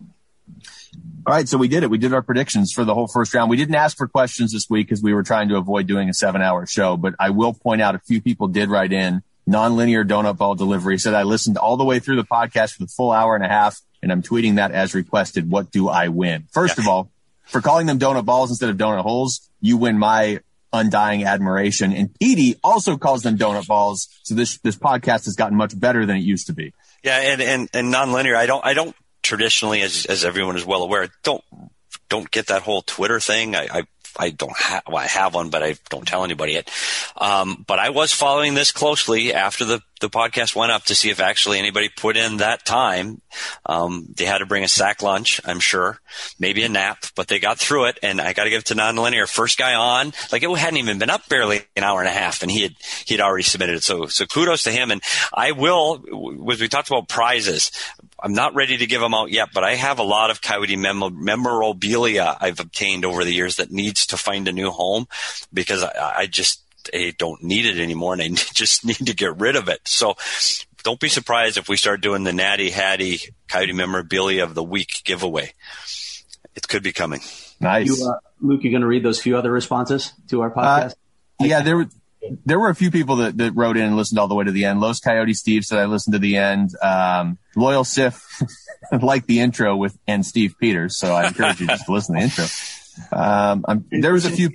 All right, so we did it. We did our predictions for the whole first round. We didn't ask for questions this week because we were trying to avoid doing a 7-hour show, but I will point out a few people did write in. Nonlinear Donut Ball Delivery said, I listened all the way through the podcast for the full hour and a half, and I'm tweeting that as requested. What do I win? First of all, for calling them donut balls instead of donut holes, you win my undying admiration. And Petey also calls them donut balls, so this podcast has gotten much better than it used to be. Yeah, and nonlinear, I don't traditionally, as everyone is well aware, don't get that whole Twitter thing. I don't have, well, I have one, but I don't tell anybody it. But I was following this closely after the podcast went up to see if actually anybody put in that time. They had to bring a sack lunch, I'm sure, maybe a nap, but they got through it. And I got to give it to Nonlinear. First guy on, like it hadn't even been up barely an hour and a half, and he had already submitted it. So kudos to him. And I will, as we talked about prizes, I'm not ready to give them out yet, but I have a lot of Coyote memorabilia I've obtained over the years that needs to find a new home because I don't need it anymore, and I just need to get rid of it. So don't be surprised if we start doing the Natty Hattie Coyote Memorabilia of the Week giveaway. It could be coming. Nice. Luke, you going to read those few other responses to our podcast? Yeah, there were a few people that wrote in and listened all the way to the end. Los Coyote Steve said I listened to the end. Loyal Sif liked the intro and Steve Peters, so I encourage you just to listen to the intro. There was a few.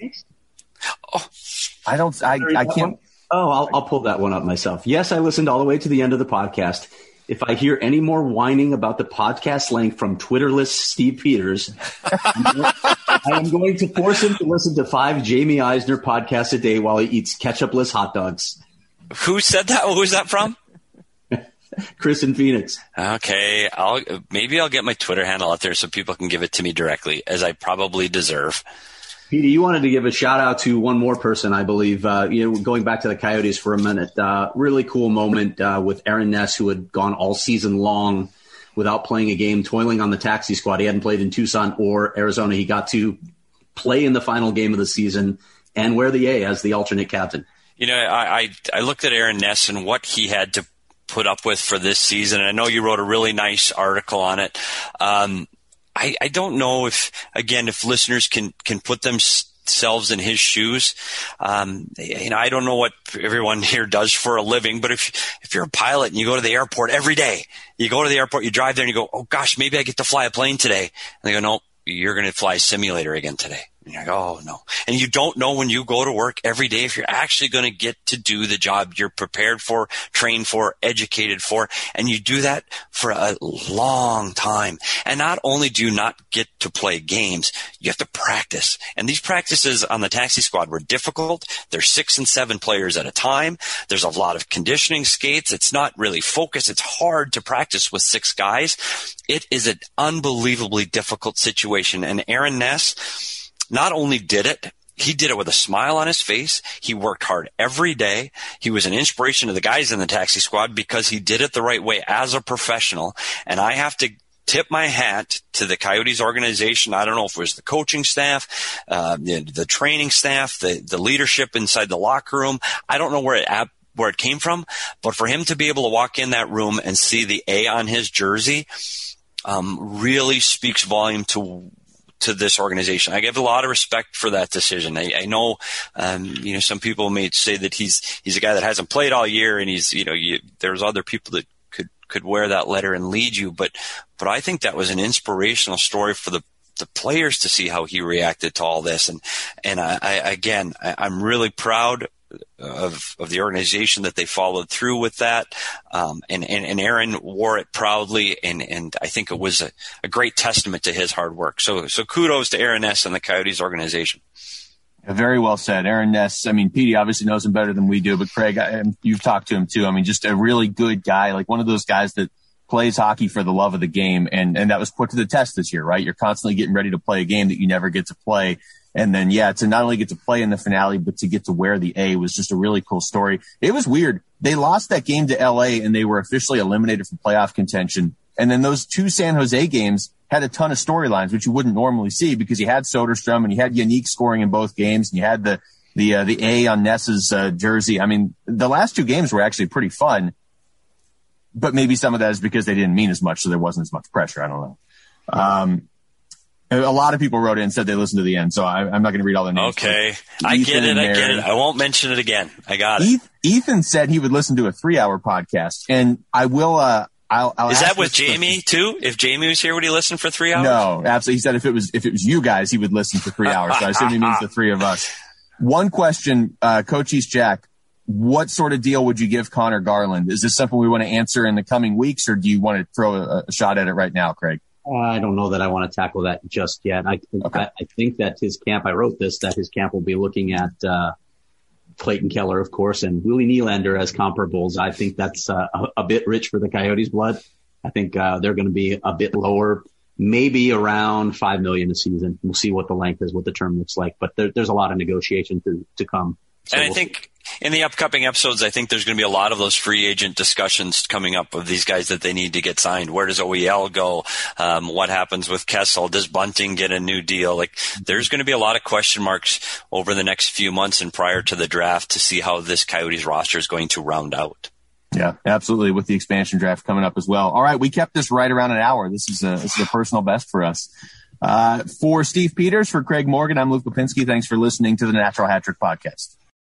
I can't. Oh, I'll pull that one up myself. Yes, I listened all the way to the end of the podcast. If I hear any more whining about the podcast length from Twitterless Steve Peters, I am going to force him to listen to 5 Jamie Eisner podcasts a day while he eats ketchupless hot dogs. Who said that? Who was that from? Chris in Phoenix. Okay, maybe I'll get my Twitter handle out there so people can give it to me directly, as I probably deserve. Petey, you wanted to give a shout out to one more person, I believe. Going back to the Coyotes for a minute, really cool moment with Aaron Ness, who had gone all season long without playing a game, toiling on the taxi squad. He hadn't played in Tucson or Arizona. He got to play in the final game of the season and wear the A as the alternate captain. You know, I looked at Aaron Ness and what he had to put up with for this season. And I know you wrote a really nice article on it. I don't know if listeners can put themselves in his shoes. I don't know what everyone here does for a living, but if you're a pilot and you go to the airport every day, you drive there and you go, oh gosh, maybe I get to fly a plane today. And they go, no, you're going to fly a simulator again today. And you're like, oh, no. And you don't know when you go to work every day if you're actually going to get to do the job you're prepared for, trained for, educated for. And you do that for a long time. And not only do you not get to play games, you have to practice. And these practices on the taxi squad were difficult. There's 6 and 7 players at a time. There's a lot of conditioning skates. It's not really focused. It's hard to practice with 6 guys. It is an unbelievably difficult situation. And Aaron Ness not only did it, he did it with a smile on his face. He worked hard every day. He was an inspiration to the guys in the taxi squad because he did it the right way as a professional. And I have to tip my hat to the Coyotes organization. I don't know if it was the coaching staff, the training staff, the leadership inside the locker room. I don't know where it came from, but for him to be able to walk in that room and see the A on his jersey really speaks volume to this organization. I give a lot of respect for that decision. I know, some people may say that he's a guy that hasn't played all year, and there's other people that could wear that letter and lead you, but I think that was an inspirational story for the players to see how he reacted to all this. And I'm really proud of the organization that they followed through with that. And Aaron wore it proudly. And I think it was a great testament to his hard work. So kudos to Aaron Ness and the Coyotes organization. Very well said. Aaron Ness, Petey obviously knows him better than we do, but Craig, you've talked to him too. Just a really good guy, like one of those guys that plays hockey for the love of the game. And that was put to the test this year, right? You're constantly getting ready to play a game that you never get to play. And then, to not only get to play in the finale, but to get to wear the A was just a really cool story. It was weird. They lost that game to LA and they were officially eliminated from playoff contention. And then those 2 San Jose games had a ton of storylines, which you wouldn't normally see because you had Soderstrom and you had Yannick scoring in both games and you had the A on Ness's jersey. The last 2 games were actually pretty fun, but maybe some of that is because they didn't mean as much, so there wasn't as much pressure. I don't know. A lot of people wrote in and said they listened to the end, so I'm not going to read all their names. Okay. I get it. I won't mention it again. I got it. Ethan said he would listen to a 3-hour podcast, and I will, I'll Is that with Jamie too? If Jamie was here, would he listen for 3 hours? No, absolutely. He said if it was you guys, he would listen for 3 hours. So I assume he means the 3 of us. One question, Coach East Jack, what sort of deal would you give Connor Garland? Is this something we want to answer in the coming weeks, or do you want to throw a shot at it right now, Craig? I don't know that I want to tackle that just yet. I think that his camp, I wrote this, that his camp will be looking at Clayton Keller, of course, and Willie Nylander as comparables. I think that's a bit rich for the Coyotes' blood. I think they're going to be a bit lower, maybe around $5 million a season. We'll see what the length is, what the term looks like, but there's a lot of negotiation to come. So and I think in the upcoming episodes, I think there's going to be a lot of those free agent discussions coming up of these guys that they need to get signed. Where does OEL go? What happens with Kessel? Does Bunting get a new deal? Like, there's going to be a lot of question marks over the next few months and prior to the draft to see how this Coyotes roster is going to round out. Yeah, absolutely. With the expansion draft coming up as well. All right. We kept this right around an hour. This is a personal best for us. For Steve Peters, for Craig Morgan, I'm Luke Lipinski. Thanks for listening to the Natural Hat Trick Podcast.